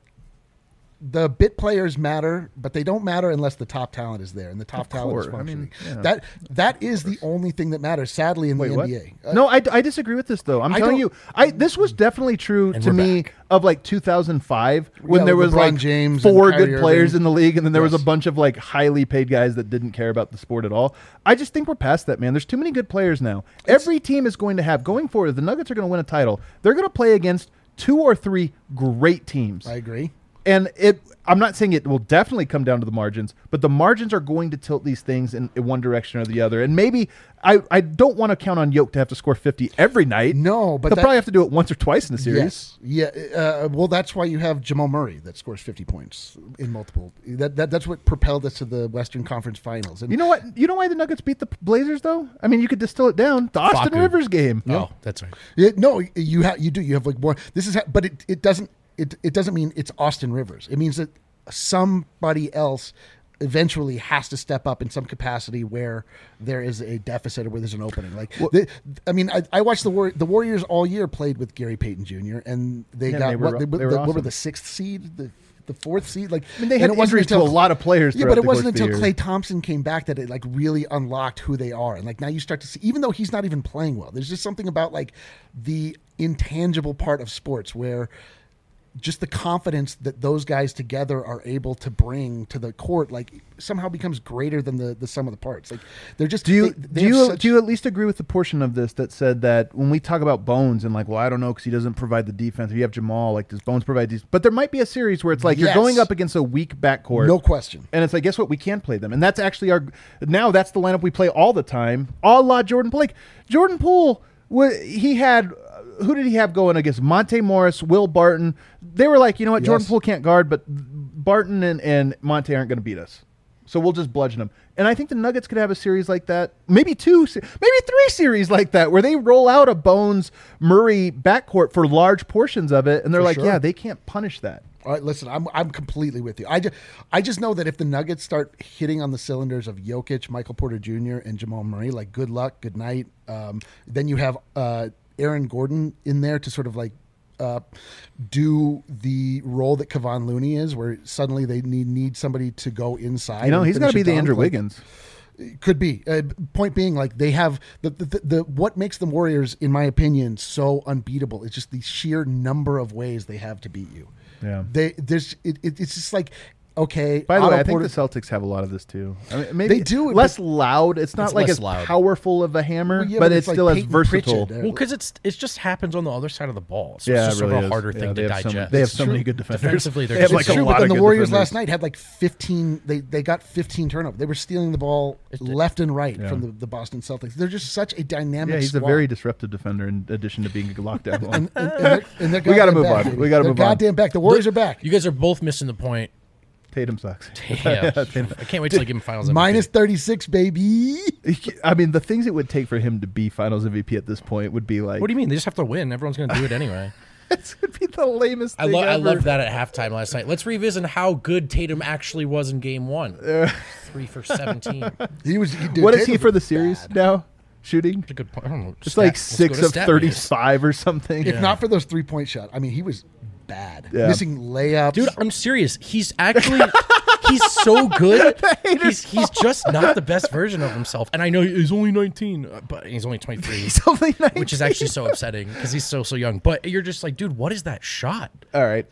[SPEAKER 3] the bit players matter, but they don't matter unless the top talent is there, and the top talent is functioning. That is the only thing that matters, sadly, in the NBA.
[SPEAKER 2] No, I disagree with this, though. I'm telling you, this was definitely true to me of like 2005 when there was
[SPEAKER 3] LeBron
[SPEAKER 2] like
[SPEAKER 3] James
[SPEAKER 2] 4 good players in the league, and then there was a bunch of like highly paid guys that didn't care about the sport at all. I just think we're past that, man. There's too many good players now. Every team is going to have, going forward, the Nuggets are going to win a title. They're going to play against 2 or 3 great teams.
[SPEAKER 3] I agree.
[SPEAKER 2] And I'm not saying it will definitely come down to the margins, but the margins are going to tilt these things in one direction or the other. And maybe I don't want to count on Yoke to have to score 50 every night.
[SPEAKER 3] No, but
[SPEAKER 2] they'll probably have to do it once or twice in the series.
[SPEAKER 3] Yes. Yeah. Well, that's why you have Jamal Murray that scores 50 points in multiple. That's what propelled us to the Western Conference Finals. And
[SPEAKER 2] you know what? You know why the Nuggets beat the Blazers, though? I mean, you could distill it down. The Austin Rivers game.
[SPEAKER 1] Oh, that's right.
[SPEAKER 3] No, you do. You have like more. This is, but it doesn't. It doesn't mean it's Austin Rivers. It means that somebody else eventually has to step up in some capacity where there is a deficit or where there's an opening. Like, I watched the Warriors all year played with Gary Payton Jr. and they got what were the 6th seed, the 4th seed. Like,
[SPEAKER 2] I mean, they had injuries to a lot of players.
[SPEAKER 3] Yeah, but it wasn't until Klay Thompson came back that it like really unlocked who they are. And like now you start to see, even though he's not even playing well, there's just something about like the intangible part of sports where just the confidence that those guys together are able to bring to the court, like somehow becomes greater than the sum of the parts. Like they're just.
[SPEAKER 2] Do you at least agree with the portion of this that said that when we talk about Bones and like, well, I don't know because he doesn't provide the defense. If you have Jamal, like does Bones provide these? But there might be a series where it's like you're going up against a weak backcourt,
[SPEAKER 3] no question,
[SPEAKER 2] and it's like, guess what? We can play them, and that's actually that's the lineup we play all the time, a la Jordan Poole. Like Jordan Poole, he had. Who did he have going against? Monte Morris, Will Barton. They were like, you know what? Jordan Poole can't guard, but Barton and Monte aren't going to beat us. So we'll just bludgeon them. And I think the Nuggets could have a series like that. Maybe 2, maybe 3 series like that where they roll out a Bones-Murray backcourt for large portions of it. And they're yeah, they can't punish that.
[SPEAKER 3] All right, listen, I'm completely with you. I just know that if the Nuggets start hitting on the cylinders of Jokic, Michael Porter Jr., and Jamal Murray, like good luck, good night. Then you have Aaron Gordon in there to sort of like do the role that Kevon Looney is, where suddenly they need somebody to go inside.
[SPEAKER 2] You know, he's going to be the Andrew Wiggins.
[SPEAKER 3] Could be. Point being, like they have the what makes the Warriors, in my opinion, so unbeatable is just the sheer number of ways they have to beat you.
[SPEAKER 2] Yeah,
[SPEAKER 3] it's just like. Okay.
[SPEAKER 2] By the way, I think the Celtics have a lot of this too. I mean, maybe
[SPEAKER 3] they do
[SPEAKER 2] less loud. It's not like as loud. Powerful of a hammer, but it's still as versatile.
[SPEAKER 1] Well, because it just happens on the other side of the ball, so it's just sort of a harder thing to digest.
[SPEAKER 2] They have so many good defenders.
[SPEAKER 1] Defensively,
[SPEAKER 2] they have like a lot of good
[SPEAKER 3] the Warriors
[SPEAKER 2] defenders.
[SPEAKER 3] last night had like 15. They got 15 turnovers. They were stealing the ball left and right from the Boston Celtics. They're just such a dynamic.
[SPEAKER 2] Yeah, he's
[SPEAKER 3] squad.
[SPEAKER 2] a very disruptive defender in addition to being a lockdown one.
[SPEAKER 3] and
[SPEAKER 2] we got to move on. We got to move on.
[SPEAKER 3] Goddamn back. The Warriors are back.
[SPEAKER 1] You guys are both missing the point.
[SPEAKER 2] Tatum sucks.
[SPEAKER 1] Yeah. I can't wait till I give him Finals MVP.
[SPEAKER 3] Minus 36, baby.
[SPEAKER 2] I mean, the things it would take for him to be Finals MVP at this point would be like...
[SPEAKER 1] What do you mean? They just have to win. Everyone's going to do it anyway.
[SPEAKER 2] It would be the lamest thing
[SPEAKER 1] I loved that at halftime last night. Let's revisit how good Tatum actually was in Game 1. 3 for 17.
[SPEAKER 2] What is he for the series now? Shooting?
[SPEAKER 1] That's a good point. I don't know.
[SPEAKER 2] It's like 6 of 35 or something.
[SPEAKER 3] If not for those 3-point shots. I mean, he was... bad. Missing layups.
[SPEAKER 1] Dude, I'm serious. He's actually he's so good. He's just not the best version of himself. And I know he's only 19, but he's only 23.
[SPEAKER 2] He's only 19.
[SPEAKER 1] Which is actually so upsetting because he's so young. But you're just like, dude, what is that shot?
[SPEAKER 2] All right.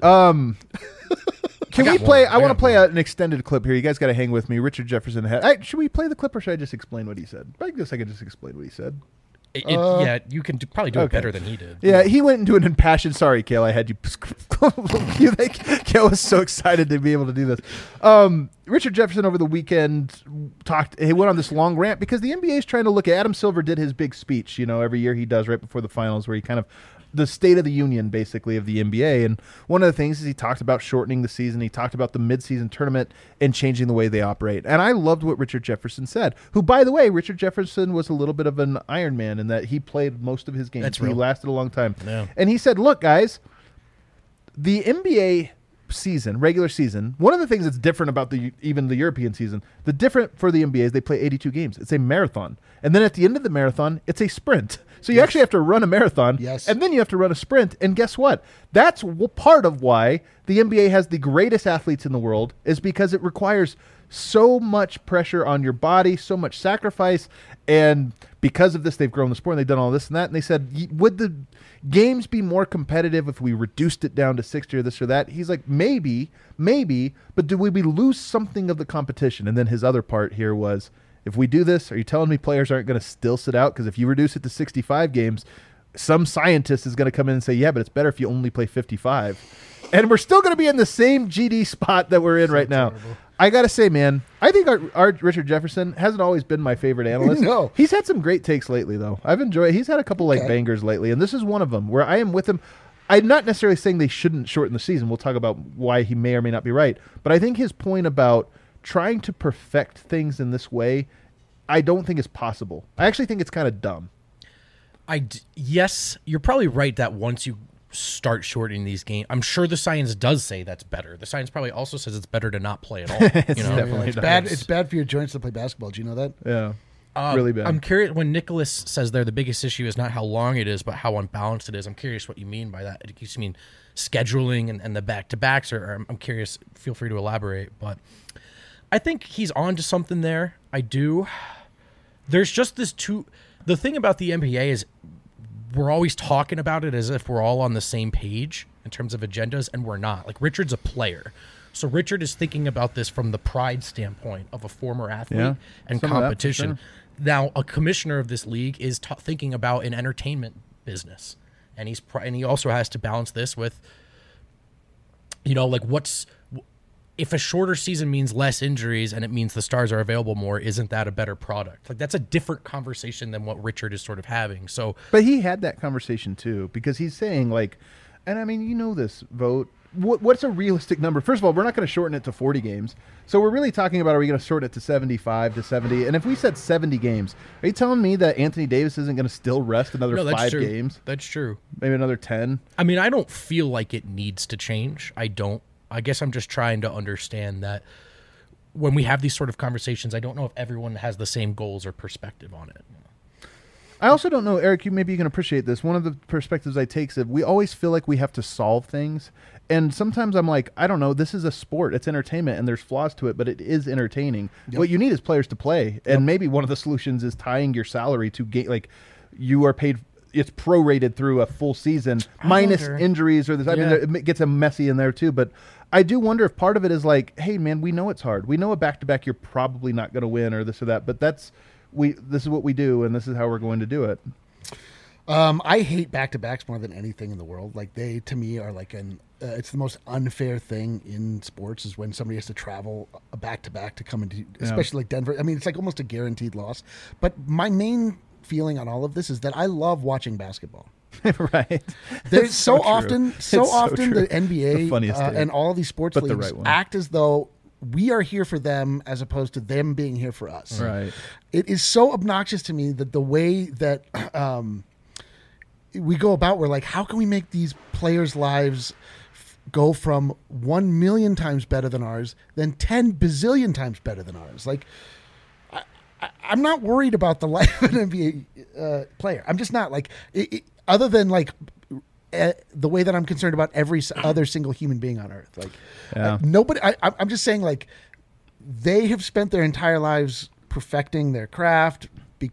[SPEAKER 2] Can we play? I want to play an extended clip here. You guys got to hang with me. Richard Jefferson had. Should we play the clip or should I just explain what he said? I guess I can just explain what he said.
[SPEAKER 1] Yeah, you can probably do it better than he did.
[SPEAKER 2] Yeah, he went into an impassioned. Sorry, Kale, I had you. You think Kale was so excited to be able to do this? Richard Jefferson over the weekend he went on this long rant because the NBA is trying to look at. Adam Silver did his big speech, every year he does right before the finals, where he kind of the state of the union, basically, of the NBA. And one of the things is he talked about shortening the season. He talked about the midseason tournament and changing the way they operate. And I loved what Richard Jefferson said, who, by the way, Richard Jefferson was a little bit of an Iron Man in that he played most of his games.
[SPEAKER 1] That's real.
[SPEAKER 2] He lasted a long time.
[SPEAKER 1] Yeah.
[SPEAKER 2] And he said, look, guys, the NBA season, regular season, one of the things that's different about even the European season, the different for the NBA is they play 82 games. It's a marathon. And then at the end of the marathon, it's a sprint. So you actually have to run a marathon, and then you have to run a sprint. And guess what? That's part of why the NBA has the greatest athletes in the world, is because it requires so much pressure on your body, so much sacrifice. And because of this, they've grown the sport, and they've done all this and that. And they said, would the games be more competitive if we reduced it down to 60 or this or that? He's like, maybe, but do we lose something of the competition? And then his other part here was, if we do this, are you telling me players aren't going to still sit out? Because if you reduce it to 65 games, some scientist is going to come in and say, yeah, but it's better if you only play 55. And we're still going to be in the same GD spot that we're in right now. I got to say, man, I think our Richard Jefferson hasn't always been my favorite analyst.
[SPEAKER 3] No.
[SPEAKER 2] He's had some great takes lately, though. I've enjoyed it. He's had a couple bangers lately, and this is one of them where I am with him. I'm not necessarily saying they shouldn't shorten the season. We'll talk about why he may or may not be right. But I think his point about trying to perfect things in this way, I don't think is possible. I actually think it's kind of dumb.
[SPEAKER 1] Yes, you're probably right that once you start shortening these games, I'm sure the science does say that's better. The science probably also says it's better to not play at all.
[SPEAKER 3] It's bad. It's bad for your joints to play basketball. Do you know that?
[SPEAKER 2] Yeah. Really bad.
[SPEAKER 1] I'm curious, when Nicholas says there the biggest issue is not how long it is, but how unbalanced it is. I'm curious what you mean by that. Do you mean scheduling and the back-to-backs, or I'm curious. Feel free to elaborate. But I think he's on to something there. I do. There's just the thing about the NBA is we're always talking about it as if we're all on the same page. in terms of agendas, and we're not. Like, Richard's a player. So Richard is thinking about this from the pride standpoint of a former athlete and competition. Sure. Now, a commissioner of this league is thinking about an entertainment business, and he also has to balance this with, like, if a shorter season means less injuries and it means the stars are available more, isn't that a better product? Like, that's a different conversation than what Richard is sort of having. So,
[SPEAKER 2] but he had that conversation too, because he's saying, like, and I mean, this vote. What's a realistic number? First of all, we're not going to shorten it to 40 games. So we're really talking about, are we going to shorten it to 75 to 70? And if we said 70 games, are you telling me that Anthony Davis isn't going to still rest another 5 games?
[SPEAKER 1] That's true.
[SPEAKER 2] Maybe another 10?
[SPEAKER 1] I mean, I don't feel like it needs to change. I guess I'm just trying to understand that when we have these sort of conversations, I don't know if everyone has the same goals or perspective on it.
[SPEAKER 2] I also don't know, Eric, maybe you can appreciate this. One of the perspectives I take is we always feel like we have to solve things. And sometimes I'm like, I don't know, this is a sport. It's entertainment, and there's flaws to it, but it is entertaining. Yep. What you need is players to play. And maybe one of the solutions is tying your salary to like you are paid, it's prorated through a full season minus injuries or this. I mean, it gets a messy in there too. But I do wonder if part of it is like, hey, man, we know it's hard. We know a back-to-back you're probably not going to win or this or that. But this is what we do, and this is how we're going to do it.
[SPEAKER 3] I hate back-to-backs more than anything in the world. Like, they, to me, are like it's the most unfair thing in sports is when somebody has to travel a back-to-back to come into, especially like Denver. I mean, it's like almost a guaranteed loss. But my main feeling on all of this is that I love watching basketball.
[SPEAKER 2] Right.
[SPEAKER 3] There's so often the NBA and all of these sports leagues act as though we are here for them as opposed to them being here for us.
[SPEAKER 2] Right.
[SPEAKER 3] It is so obnoxious to me that the way that we go about, we're like, how can we make these players' lives go from 1 million times better than ours, then 10 bazillion times better than ours? Like, I'm not worried about the life of an NBA player. I'm just not, like, other than like the way that I'm concerned about every other single human being on earth. Like, nobody. I'm just saying, like, they have spent their entire lives perfecting their craft,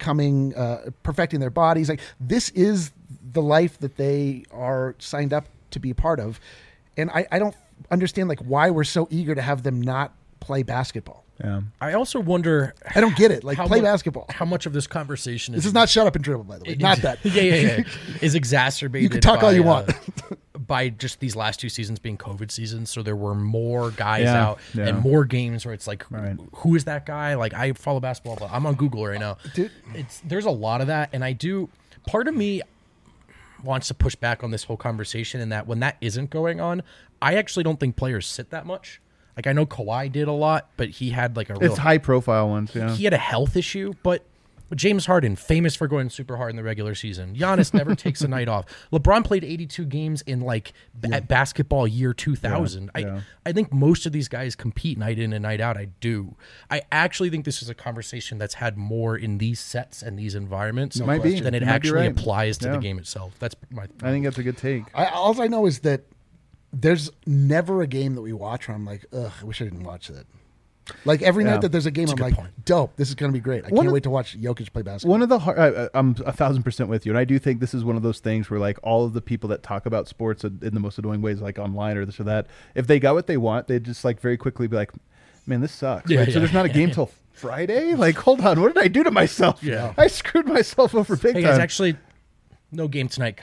[SPEAKER 3] perfecting their bodies. Like, this is the life that they are signed up to be a part of. And I don't understand, like, why we're so eager to have them not play basketball.
[SPEAKER 2] Yeah.
[SPEAKER 1] I also wonder.
[SPEAKER 3] I don't get it. Like, play basketball.
[SPEAKER 1] How much of this conversation
[SPEAKER 3] is. This is not shut up and dribble, by the way. Not that.
[SPEAKER 1] Yeah. Is exacerbated.
[SPEAKER 3] You can talk all you want.
[SPEAKER 1] By just these last 2 seasons being COVID seasons. So there were more guys out and more games where it's like, who is that guy? Like, I follow basketball, but I'm on Google right now.
[SPEAKER 3] Dude.
[SPEAKER 1] There's a lot of that. And part of me wants to push back on this whole conversation in that when that isn't going on, I actually don't think players sit that much. Like, I know Kawhi did a lot, but he had like
[SPEAKER 2] it's high profile ones. Yeah,
[SPEAKER 1] he had a health issue, but James Harden, famous for going super hard in the regular season. Giannis never takes a night off. LeBron played 82 games in at basketball year 2000. Yeah. I think most of these guys compete night in and night out. I do. I actually think this is a conversation that's had more in these sets and these environments than it actually applies to the game itself. That's my.
[SPEAKER 2] I think that's a good take.
[SPEAKER 3] All I know is that there's never a game that we watch where I'm like, ugh, I wish I didn't watch that. Like, every night that there's a game, I'm like, dope, this is going to be great. I can't wait to watch Jokic play basketball.
[SPEAKER 2] One of the I'm 1,000% with you, and I do think this is one of those things where, like, all of the people that talk about sports in the most annoying ways, like online or this or that, if they got what they want, they'd just, like, very quickly be like, man, this sucks. So there's not a game till Friday? Like, hold on, what did I do to myself?
[SPEAKER 1] Yeah.
[SPEAKER 2] I screwed myself over big time.
[SPEAKER 1] Guys, actually, no game tonight.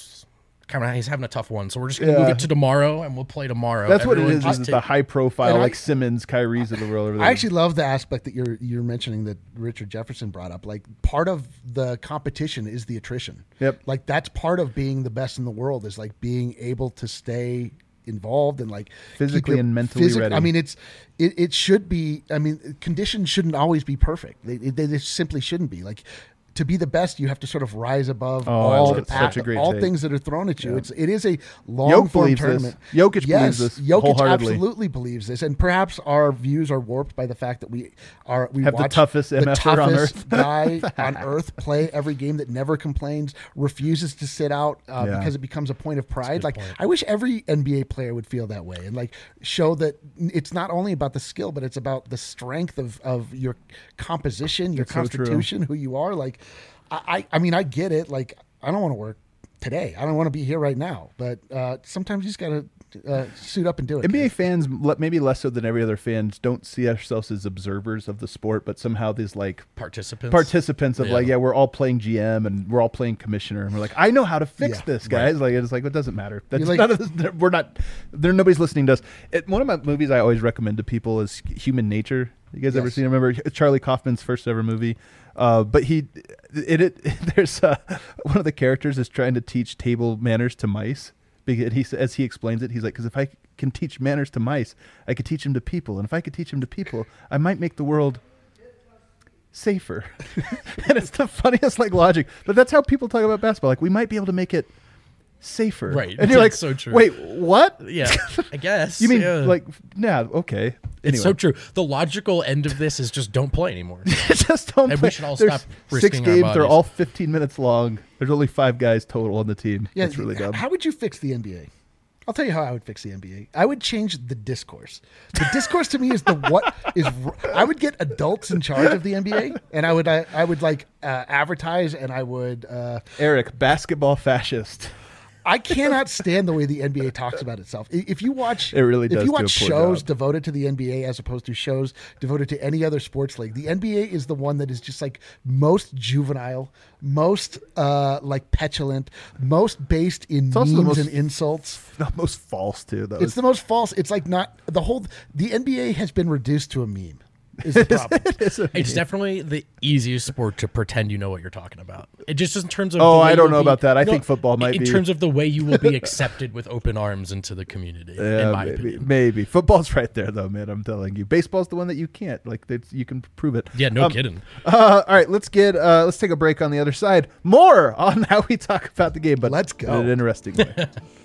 [SPEAKER 1] He's having a tough one, so we're just going to move it to tomorrow, and we'll play tomorrow.
[SPEAKER 2] That's what it is the high-profile, like Simmons, Kyrie's of the world. Over there.
[SPEAKER 3] I actually love the aspect that you're mentioning that Richard Jefferson brought up. Like, part of the competition is the attrition.
[SPEAKER 2] Yep.
[SPEAKER 3] Like, that's part of being the best in the world is, like, being able to stay involved and, like,
[SPEAKER 2] physically and mentally ready.
[SPEAKER 3] I mean, it should be. I mean, conditions shouldn't always be perfect. They just simply shouldn't be. Like, to be the best, you have to sort of rise above all things that are thrown at you. Yeah. It is a long-form tournament.
[SPEAKER 2] Jokic believes this.
[SPEAKER 3] Jokic absolutely believes this, and perhaps our views are warped by the fact that we
[SPEAKER 2] have the toughest MFer on earth.
[SPEAKER 3] Guy on earth play every game that never complains, refuses to sit out because it becomes a point of pride. Like, I wish every NBA player would feel that way and, like, show that it's not only about the skill, but it's about the strength of your composition, your constitution, who you are. Like, I mean, I get it. Like, I don't want to work today. I don't want to be here right now. But sometimes you just got to suit up and do it.
[SPEAKER 2] NBA fans, maybe less so than every other fans, don't see ourselves as observers of the sport, but somehow these like participants of like, we're all playing GM and we're all playing commissioner, and we're like, I know how to fix this, guys. Right. Like it's like it doesn't matter. That's like, none of this. We're not. Nobody's listening to us. One of my movies I always recommend to people is Human Nature. You guys ever seen? Remember Charlie Kaufman's first ever movie? But there's one of the characters is trying to teach table manners to mice. As he explains it, he's like, because if I can teach manners to mice, I could teach them to people. And if I could teach them to people, I might make the world safer. And it's the funniest like logic. But that's how people talk about basketball. Like, we might be able to make it safer.
[SPEAKER 1] Right.
[SPEAKER 2] And you're like,
[SPEAKER 1] so true.
[SPEAKER 2] Wait, what?
[SPEAKER 1] Yeah, I guess.
[SPEAKER 2] You mean okay.
[SPEAKER 1] It's so true. The logical end of this is just don't play anymore.
[SPEAKER 2] Just don't
[SPEAKER 1] and
[SPEAKER 2] play.
[SPEAKER 1] We should all stop risking
[SPEAKER 2] 6 games.
[SPEAKER 1] Our
[SPEAKER 2] they're all 15 minutes long. There's only 5 guys total on the team.
[SPEAKER 3] Yeah,
[SPEAKER 2] it's really dumb.
[SPEAKER 3] How would you fix the NBA? I'll tell you how I would fix the NBA. I would change the discourse. The discourse to me is I would get adults in charge of the NBA, and I would advertise, and I would
[SPEAKER 2] Eric, basketball fascist.
[SPEAKER 3] I cannot stand the way the NBA talks about itself. If you watch,
[SPEAKER 2] it really does.
[SPEAKER 3] If you watch shows devoted to the NBA as opposed to shows devoted to any other sports league, the NBA is the one that is just like most juvenile, most like petulant, most based in memes and insults.
[SPEAKER 2] The most false too, though.
[SPEAKER 3] It's the most false. It's like not the NBA has been reduced to a meme. Is the problem.
[SPEAKER 1] It's definitely the easiest sport to pretend you know what you're talking about. It just in terms of
[SPEAKER 2] I don't know about that. I think football might be.
[SPEAKER 1] In terms of the way you will be accepted with open arms into the community, in my opinion.
[SPEAKER 2] Maybe. Football's right there, though, man. I'm telling you. Baseball's the one that you can't. Like, you can prove it.
[SPEAKER 1] Yeah, no kidding.
[SPEAKER 2] All right, let's take a break on the other side. More on how we talk about the game, but
[SPEAKER 3] let's go.
[SPEAKER 2] In an interesting way.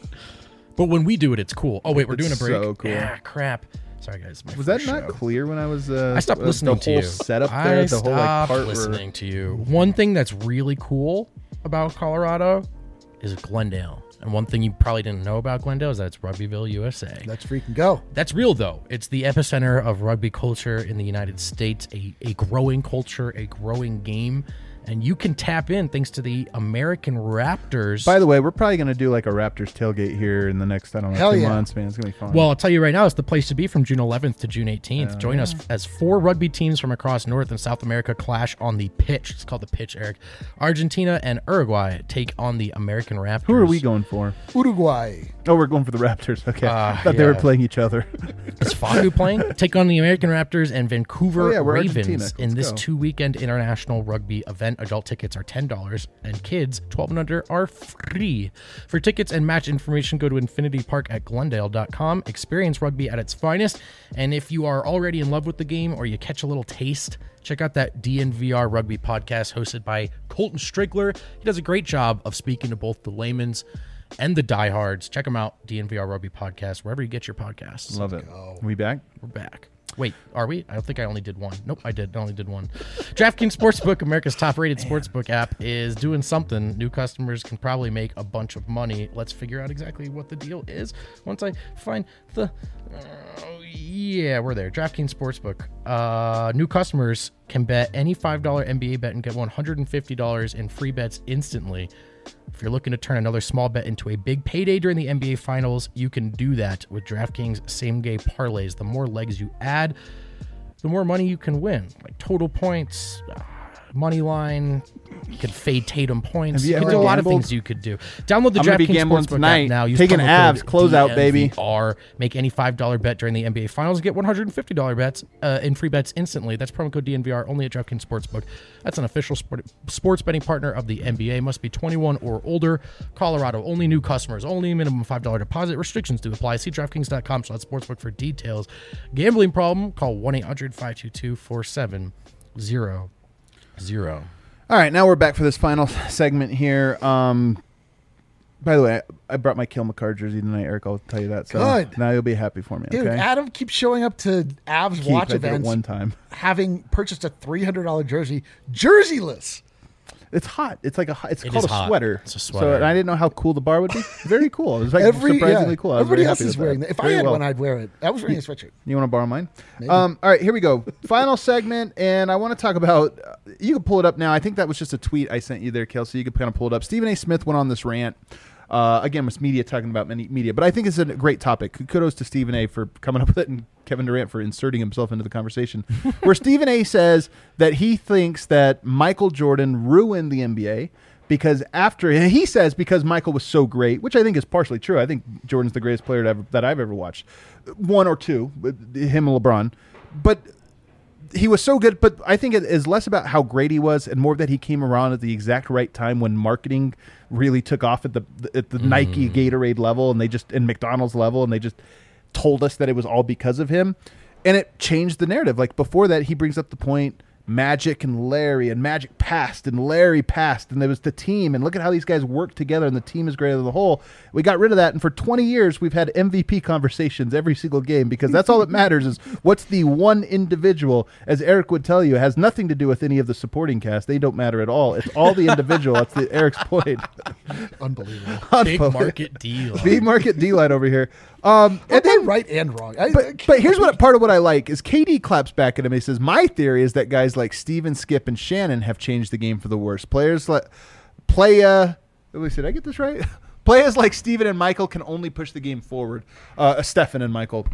[SPEAKER 1] But when we do it, it's cool. Oh, wait, we're doing a break?
[SPEAKER 2] So cool.
[SPEAKER 1] Yeah, crap. Sorry, guys.
[SPEAKER 2] Was that not clear when I was?
[SPEAKER 1] I stopped listening to you.
[SPEAKER 2] The whole setup there.
[SPEAKER 1] I stopped listening to you. One thing that's really cool about Colorado is Glendale, and one thing you probably didn't know about Glendale is that it's Rugbyville, USA.
[SPEAKER 3] Let's freaking go.
[SPEAKER 1] That's real though. It's the epicenter of rugby culture in the United States. A growing culture, a growing game. And you can tap in thanks to the American Raptors.
[SPEAKER 2] By the way, we're probably going to do like a Raptors tailgate here in the next, 2 months, man. It's going to be fun.
[SPEAKER 1] Well, I'll tell you right now, it's the place to be from June 11th to June 18th. Join us as 4 rugby teams from across North and South America clash on the pitch. It's called the pitch, Eric. Argentina and Uruguay take on the American Raptors.
[SPEAKER 2] Who are we going for?
[SPEAKER 3] Uruguay.
[SPEAKER 2] Oh, we're going for the Raptors. Okay. I thought they were playing each other.
[SPEAKER 1] Is Fagu playing? Take on the American Raptors and Vancouver Ravens in this 2-weekend international rugby event. Adult tickets are $10 and kids 12 and under are free. For tickets and match information, go to infinitypark@glendale.com. Experience rugby at its finest. And if you are already in love with the game or you catch a little taste, check out that DNVR Rugby podcast hosted by Colton Strickler. He does a great job of speaking to both the layman's and the diehards. Check them out, DNVR Rugby podcast, wherever you get your podcasts.
[SPEAKER 2] Love it. We back?
[SPEAKER 1] We're back. Wait, are we? I don't think I only did one. Nope, I only did one. DraftKings Sportsbook, America's top-rated sportsbook app, is doing something. New customers can probably make a bunch of money. Let's figure out exactly what the deal is once I find the... yeah, we're there. DraftKings Sportsbook. New customers can bet any $5 NBA bet and get $150 in free bets instantly. If you're looking to turn another small bet into a big payday during the NBA Finals, you can do that with DraftKings same-game parlays. The more legs you add, the more money you can win. Like total points, money line, you could fade Tatum points. You can do a lot of things you could do. Download the DraftKings Sportsbook app now.
[SPEAKER 2] Use taking abs, closeout, baby.
[SPEAKER 1] Or make any $5 bet during the NBA Finals and get $150 bets in free bets instantly. That's promo code DNVR only at DraftKings Sportsbook. That's an official sports betting partner of the NBA. Must be 21 or older. Colorado, only new customers. Only minimum $5 deposit. Restrictions do apply. See DraftKings.com/sportsbook for details. Gambling problem? Call 1-800-522-4700.
[SPEAKER 2] All right, now we're back for this final segment here. By the way, I brought my Kill McCarr jersey tonight, Eric. I'll tell you that. So
[SPEAKER 3] good.
[SPEAKER 2] Now you'll be happy for me.
[SPEAKER 3] Dude,
[SPEAKER 2] okay?
[SPEAKER 3] Adam keeps showing up to Avs watch events
[SPEAKER 2] one time,
[SPEAKER 3] having purchased a $300 jersey, jerseyless.
[SPEAKER 2] It's hot. It's like it's called a
[SPEAKER 1] hot.
[SPEAKER 2] sweater.
[SPEAKER 1] It's a sweater.
[SPEAKER 2] So I didn't know how cool the bar would be. Very cool. It was like surprisingly cool.
[SPEAKER 3] Everybody else is wearing that. If I had one, I'd wear it. I was wearing a sweatshirt.
[SPEAKER 2] You want to borrow mine? All right, here we go. Final segment, and I want to talk about. You can pull it up now. I think that was just a tweet I sent you there, Kelsey. You can kind of pull it up. Stephen A. Smith went on this rant. Again, was media talking about media, but I think it's a great topic. Kudos to Stephen A. for coming up with it, and Kevin Durant for inserting himself into the conversation. Where Stephen A. says that he thinks that Michael Jordan ruined the NBA because because Michael was so great, which I think is partially true. I think Jordan's the greatest player that I've ever watched, one or two, him and LeBron, but. He was so good, but I think it is less about how great he was and more that he came around at the exact right time when marketing really took off at the Nike Gatorade level and McDonald's level, and they just told us that it was all because of him, and it changed the narrative. Like before that, he brings up the point Magic and Larry, and Magic passed and Larry passed, and there was the team, and look at how these guys work together, and the team is greater than the whole. We got rid of that, and for 20 years we've had MVP conversations every single game because that's all that matters is what's the one individual, as Eric would tell you, it has nothing to do with any of the supporting cast. They don't matter at all. It's all the individual. That's Eric's point.
[SPEAKER 3] Unbelievable.
[SPEAKER 1] Big market deal.
[SPEAKER 2] Big market D-line over here.
[SPEAKER 3] And then right and wrong.
[SPEAKER 2] But here's part of what I like is KD claps back at him. He says, "My theory is that guys like Steven, Skip, and Shannon have changed the game for the worse. Players like did I get this right? Players like Steven and Michael can only push the game forward. Stephen and Michael.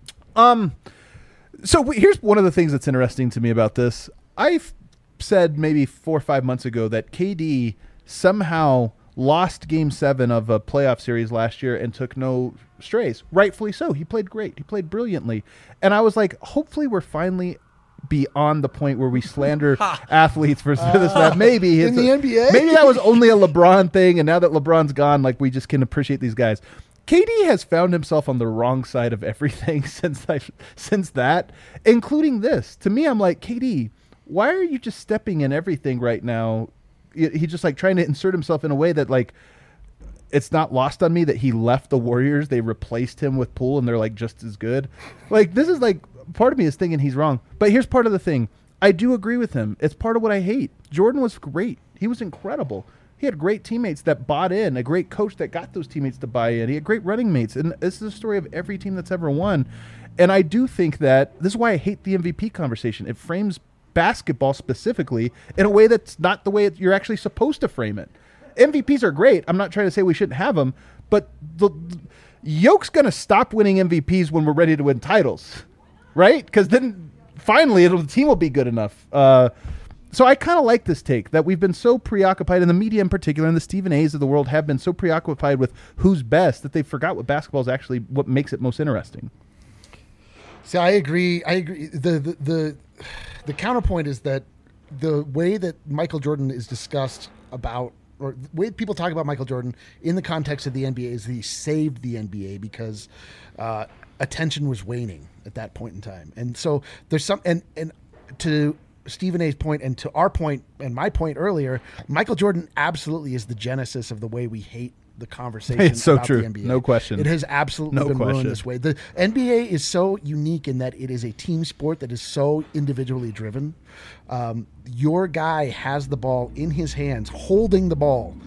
[SPEAKER 2] So here's one of the things that's interesting to me about this. I've said maybe 4 or 5 months ago that KD somehow lost Game 7 of a playoff series last year and took no strays. Rightfully so. He played great. He played brilliantly. And I was like, hopefully we're finally beyond the point where we slander athletes for this. Maybe
[SPEAKER 3] in the NBA?
[SPEAKER 2] Maybe that was only a LeBron thing, and now that LeBron's gone, like we just can appreciate these guys. KD has found himself on the wrong side of everything since that, including this. To me, I'm like, KD, why are you just stepping in everything right now? He's just like trying to insert himself in a way that like it's not lost on me that he left the Warriors. They replaced him with Poole, and they're like just as good. Like this is like part of me is thinking he's wrong. But here's part of the thing. I do agree with him. It's part of what I hate. Jordan was great. He was incredible. He had great teammates that bought in, a great coach that got those teammates to buy in. He had great running mates. And this is the story of every team that's ever won. And I do think that this is why I hate the MVP conversation. It frames basketball specifically in a way that's not the way you're actually supposed to frame it. MVPs are great. I'm not trying to say we shouldn't have them, but Yoke's going to stop winning MVPs when we're ready to win titles, right? Because then finally the team will be good enough. So I kind of like this take that we've been so preoccupied, in the media in particular, and the Stephen A's of the world have been so preoccupied with who's best that they forgot what basketball is actually what makes it most interesting.
[SPEAKER 3] See, I agree. The counterpoint is that the way that Michael Jordan is discussed about, or the way people talk about Michael Jordan in the context of the NBA is that he saved the NBA because attention was waning at that point in time. And so there's some, and to Stephen A's point and to our point and my point earlier, Michael Jordan absolutely is the genesis of the way we hate the conversation.
[SPEAKER 2] It's so
[SPEAKER 3] about
[SPEAKER 2] true.
[SPEAKER 3] The NBA.
[SPEAKER 2] No question.
[SPEAKER 3] It has absolutely been ruined this way. The NBA is so unique in that it is a team sport that is so individually driven. Your guy has the ball in his hands, holding the ball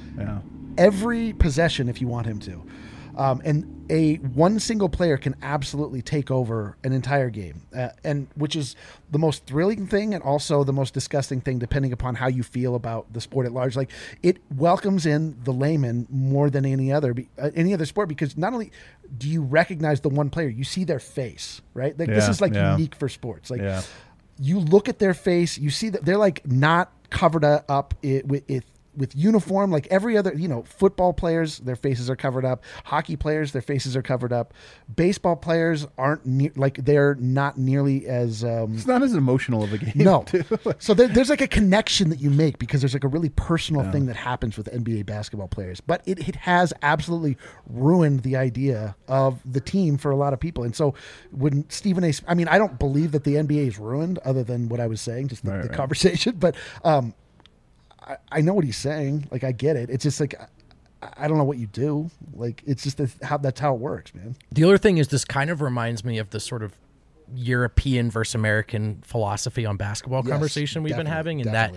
[SPEAKER 3] every possession if you want him to. And one single player can absolutely take over an entire game, and which is the most thrilling thing and also the most disgusting thing, depending upon how you feel about the sport at large. Like, it welcomes in the layman more than any other sport, because not only do you recognize the one player, you see their face, right? Like this is like unique for sports. Like you look at their face, you see that they're like not covered up with uniform, like every other, football players, their faces are covered up. Hockey players, their faces are covered up. Baseball players aren't they're not nearly as
[SPEAKER 2] it's not as emotional of a game.
[SPEAKER 3] No. So there's like a connection that you make because there's like a really personal thing that happens with NBA basketball players. But it has absolutely ruined the idea of the team for a lot of people. And so when Stephen A. I mean, I don't believe that the NBA is ruined, other than what I was saying, just the conversation. But I know what he's saying. Like, I get it. It's just like, I don't know what you do. Like, it's just that's how it works, man.
[SPEAKER 1] The other thing is, this kind of reminds me of the sort of European versus American philosophy on basketball conversation we've been having, in that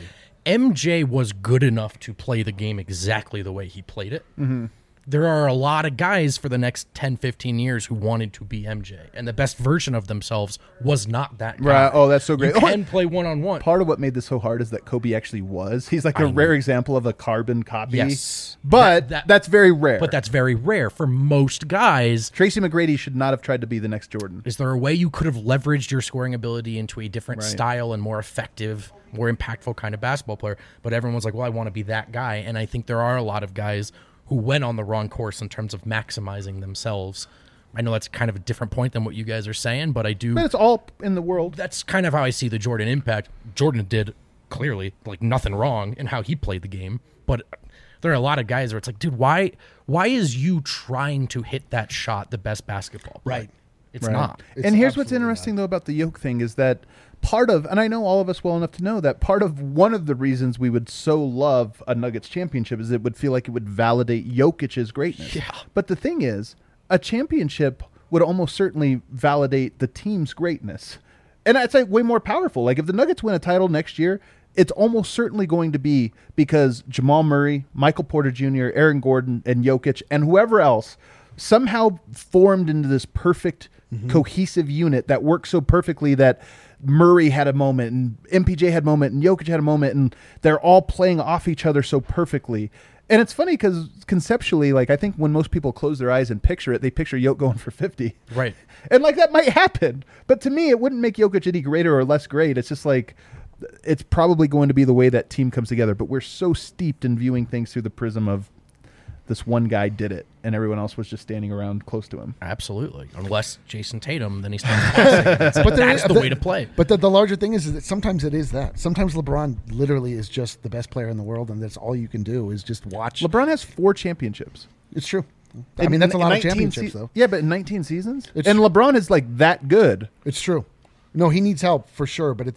[SPEAKER 1] MJ was good enough to play the game exactly the way he played it.
[SPEAKER 2] Mm-hmm.
[SPEAKER 1] There are a lot of guys for the next 10, 15 years who wanted to be MJ, and the best version of themselves was not that guy.
[SPEAKER 2] Right. Oh, that's so great.
[SPEAKER 1] You can play one-on-one.
[SPEAKER 2] Part of what made this so hard is that Kobe actually was. He's like a rare example of a carbon copy.
[SPEAKER 1] Yes.
[SPEAKER 2] But that's very rare.
[SPEAKER 1] But that's very rare for most guys.
[SPEAKER 2] Tracy McGrady should not have tried to be the next Jordan.
[SPEAKER 1] Is there a way you could have leveraged your scoring ability into a different style and more effective, more impactful kind of basketball player? But everyone was like, well, I want to be that guy. And I think there are a lot of guys who went on the wrong course in terms of maximizing themselves. I know that's kind of a different point than what you guys are saying, but I do...
[SPEAKER 2] But it's all in the world.
[SPEAKER 1] That's kind of how I see the Jordan impact. Jordan did, clearly, like nothing wrong in how he played the game, but there are a lot of guys where it's like, dude, why is you trying to hit that shot the best basketball player?
[SPEAKER 3] Right.
[SPEAKER 1] It's not.
[SPEAKER 2] And here's what's interesting, though, about the Yoke thing is that part of, and I know all of us well enough to know that part of one of the reasons we would so love a Nuggets championship is it would feel like it would validate Jokic's greatness.
[SPEAKER 1] Yeah.
[SPEAKER 2] But the thing is, a championship would almost certainly validate the team's greatness. And that's like way more powerful. Like if the Nuggets win a title next year, it's almost certainly going to be because Jamal Murray, Michael Porter Jr., Aaron Gordon, and Jokic, and whoever else somehow formed into this perfect cohesive unit that worked so perfectly that Murray had a moment and MPJ had a moment and Jokic had a moment, and they're all playing off each other so perfectly. And it's funny because conceptually, like I think when most people close their eyes and picture it, they picture Jokic going for 50.
[SPEAKER 1] Right.
[SPEAKER 2] And like that might happen. But to me, it wouldn't make Jokic any greater or less great. It's just like it's probably going to be the way that team comes together. But we're so steeped in viewing things through the prism of this one guy did it, and everyone else was just standing around close to him.
[SPEAKER 1] Absolutely. Unless Jason Tatum, then he's passing. But that's the way to play.
[SPEAKER 3] But the larger thing is that sometimes it is that. Sometimes LeBron literally is just the best player in the world, and that's all you can do is just watch.
[SPEAKER 2] LeBron has 4 championships.
[SPEAKER 3] It's true. I mean, that's a lot of championships, though.
[SPEAKER 2] Yeah, but in 19 seasons? And LeBron is like that good.
[SPEAKER 3] It's true. No, he needs help for sure, but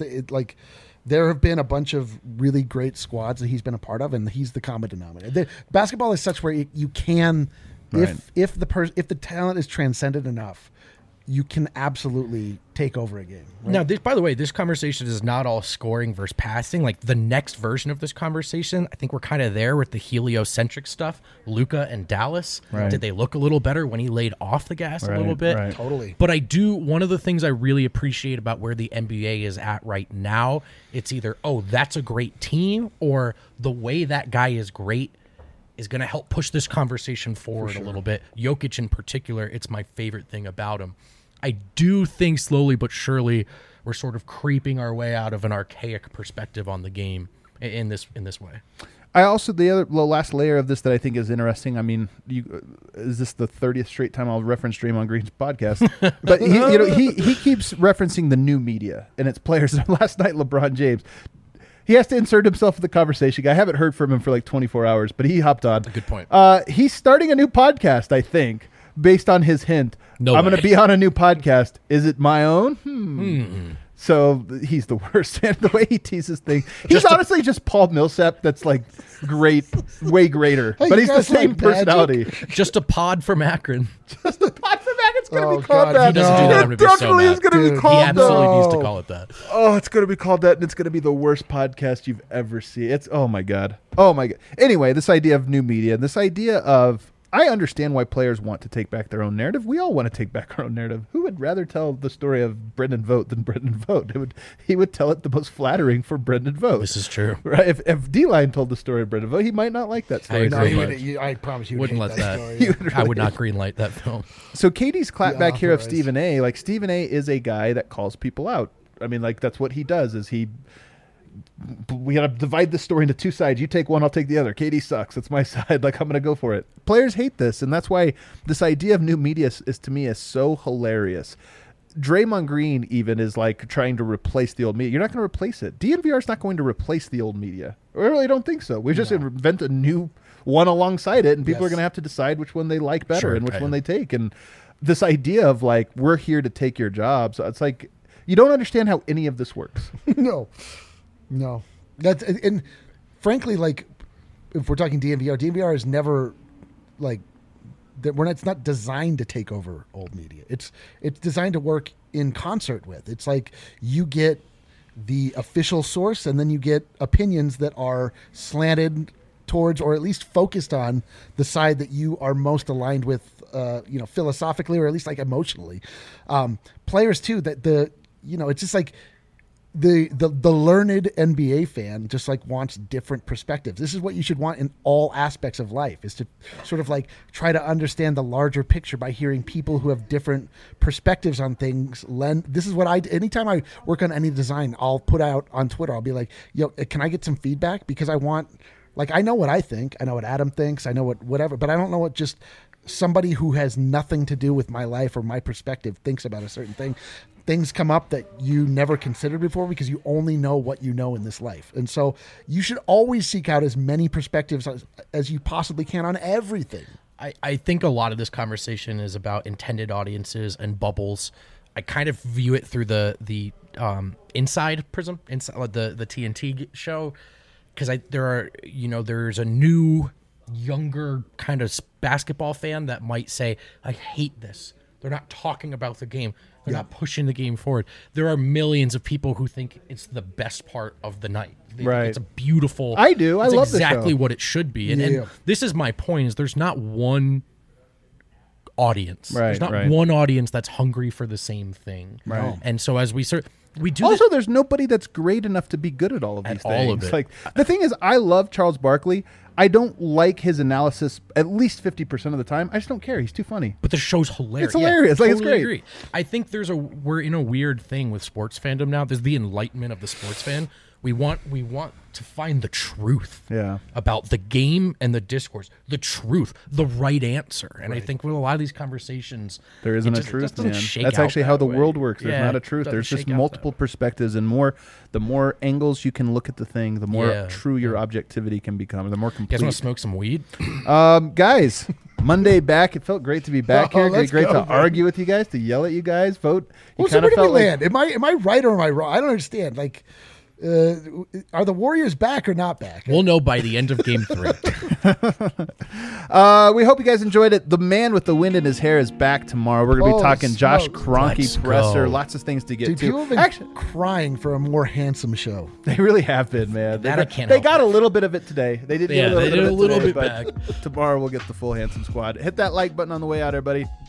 [SPEAKER 3] there have been a bunch of really great squads that he's been a part of, and he's the common denominator. Basketball is such where you can, if the talent is transcendent enough, you can absolutely take over a game. Right?
[SPEAKER 1] Now, by the way, this conversation is not all scoring versus passing. Like the next version of this conversation, I think we're kind of there with the heliocentric stuff. Luka and Dallas, did they look a little better when he laid off the gas a little bit?
[SPEAKER 3] Right. Totally.
[SPEAKER 1] But one of the things I really appreciate about where the NBA is at right now, it's either, oh, that's a great team, or the way that guy is great is going to help push this conversation forward a little bit. Jokic in particular, it's my favorite thing about him. I do think slowly but surely we're sort of creeping our way out of an archaic perspective on the game in this way.
[SPEAKER 2] I also, the last layer of this that I think is interesting, I mean, is this the 30th straight time I'll reference Draymond Green's podcast? But he keeps referencing the new media and its players. Last night, LeBron James, he has to insert himself in the conversation. I haven't heard from him for like 24 hours, but he hopped on.
[SPEAKER 1] Good point.
[SPEAKER 2] He's starting a new podcast, I think, based on his hint. I'm going to be on a new podcast. Is it my own? So he's the worst. And the way he teases things. He's honestly just Paul Millsap that's like great, way greater. Hey, but he's the same personality.
[SPEAKER 1] Just a pod from Akron.
[SPEAKER 2] Just a pod from Akron. It's going to be called that.
[SPEAKER 1] He doesn't do that. I'm going to be so mad.
[SPEAKER 2] It's going to be called
[SPEAKER 1] He absolutely needs to call it that.
[SPEAKER 2] Oh, it's going to be called that, and it's going to be the worst podcast you've ever seen. It's, oh my God. Oh my God. Anyway, this idea of new media, this idea of, I understand why players want to take back their own narrative. We all want to take back our own narrative. Who would rather tell the story of Brendan Vogt than Brendan Vogt? He would tell it the most flattering for Brendan Vogt.
[SPEAKER 1] This is true.
[SPEAKER 2] Right? If D-Line told the story of Brendan Vogt, he might not like that story.
[SPEAKER 3] I promise you
[SPEAKER 1] wouldn't let that.
[SPEAKER 3] Story,
[SPEAKER 1] really I would not greenlight that film.
[SPEAKER 2] So Katie's clapback here of Stephen A. Like Stephen A. is a guy that calls people out. I mean, like that's what he does. We got to divide this story into 2 sides. You take one, I'll take the other. Katie sucks. It's my side. Like, I'm going to go for it. Players hate this, and that's why this idea of new media is to me is so hilarious. Draymond Green even is like trying to replace the old media. You're not going to replace it. DNVR is not going to replace the old media. I really don't think so. We just invent a new one alongside it, and people are going to have to decide which one they like better and which one they take. And this idea of like, we're here to take your jobs, it's like, you don't understand how any of this works.
[SPEAKER 3] No, that's, and frankly, like if we're talking DNVR is never like that. It's not designed to take over old media. It's designed to work in concert with. It's like you get the official source, and then you get opinions that are slanted towards, or at least focused on, the side that you are most aligned with, philosophically, or at least like emotionally. Players too, it's just like the learned NBA fan just like wants different perspectives. This is what you should want in all aspects of life, is to sort of like try to understand the larger picture by hearing people who have different perspectives on things. This is what anytime I work on any design, I'll put out on Twitter, I'll be like, yo, can I get some feedback? Because I want, like, I know what I think, I know what Adam thinks, I know whatever, but I don't know what just somebody who has nothing to do with my life or my perspective thinks about a certain thing. Things come up that you never considered before because you only know what you know in this life. And so you should always seek out as many perspectives as you possibly can on everything.
[SPEAKER 1] I think a lot of this conversation is about intended audiences and bubbles. I kind of view it through the inside prism, inside the TNT show, because there's a new, younger kind of basketball fan that might say, I hate this. They're not talking about the game. They're not pushing the game forward. There are millions of people who think it's the best part of the night.
[SPEAKER 2] Right.
[SPEAKER 1] It's a beautiful.
[SPEAKER 2] I do. I love
[SPEAKER 1] exactly what it should be. And this is my point: is there's not one audience.
[SPEAKER 2] Right.
[SPEAKER 1] There's not one audience that's hungry for the same thing.
[SPEAKER 2] Right.
[SPEAKER 1] And so as we do
[SPEAKER 2] also, there's nobody that's great enough to be good at all of these things.
[SPEAKER 1] All of it.
[SPEAKER 2] Like, the thing is, I love Charles Barkley. I don't like his analysis at least 50% of the time. I just don't care. He's too funny.
[SPEAKER 1] But the show's hilarious.
[SPEAKER 2] It's hilarious.
[SPEAKER 1] Yeah,
[SPEAKER 2] like,
[SPEAKER 1] totally
[SPEAKER 2] it's great.
[SPEAKER 1] Agree. I think we're in a weird thing with sports fandom now. There's the enlightenment of the sports fan. We want to find the truth about the game and the discourse, the truth, the right answer. And I think with a lot of these conversations,
[SPEAKER 2] there isn't a truth, man. That's actually how the world works. There's not a truth. There's just multiple perspectives, and the more angles you can look at the thing, the more true your objectivity can become, the more complete.
[SPEAKER 1] You guys want to smoke some weed?
[SPEAKER 2] Guys, Monday back. It felt great to be back here. Great to argue with you guys, to yell at you guys, vote.
[SPEAKER 3] Well, so where do we land? Am I right or am I wrong? I don't understand. Like, are the Warriors back or not back?
[SPEAKER 1] We'll know by the end of Game 3.
[SPEAKER 2] We hope you guys enjoyed it. The man with the wind in his hair is back tomorrow. We're going to be talking Josh Kroenke presser. Lots of things to get to.
[SPEAKER 3] People have been crying for a more handsome show.
[SPEAKER 2] They really have been, man.
[SPEAKER 1] They
[SPEAKER 2] got a little bit of it today. They did get
[SPEAKER 1] a little bit back.
[SPEAKER 2] Tomorrow we'll get the full handsome squad. Hit that like button on the way out, everybody.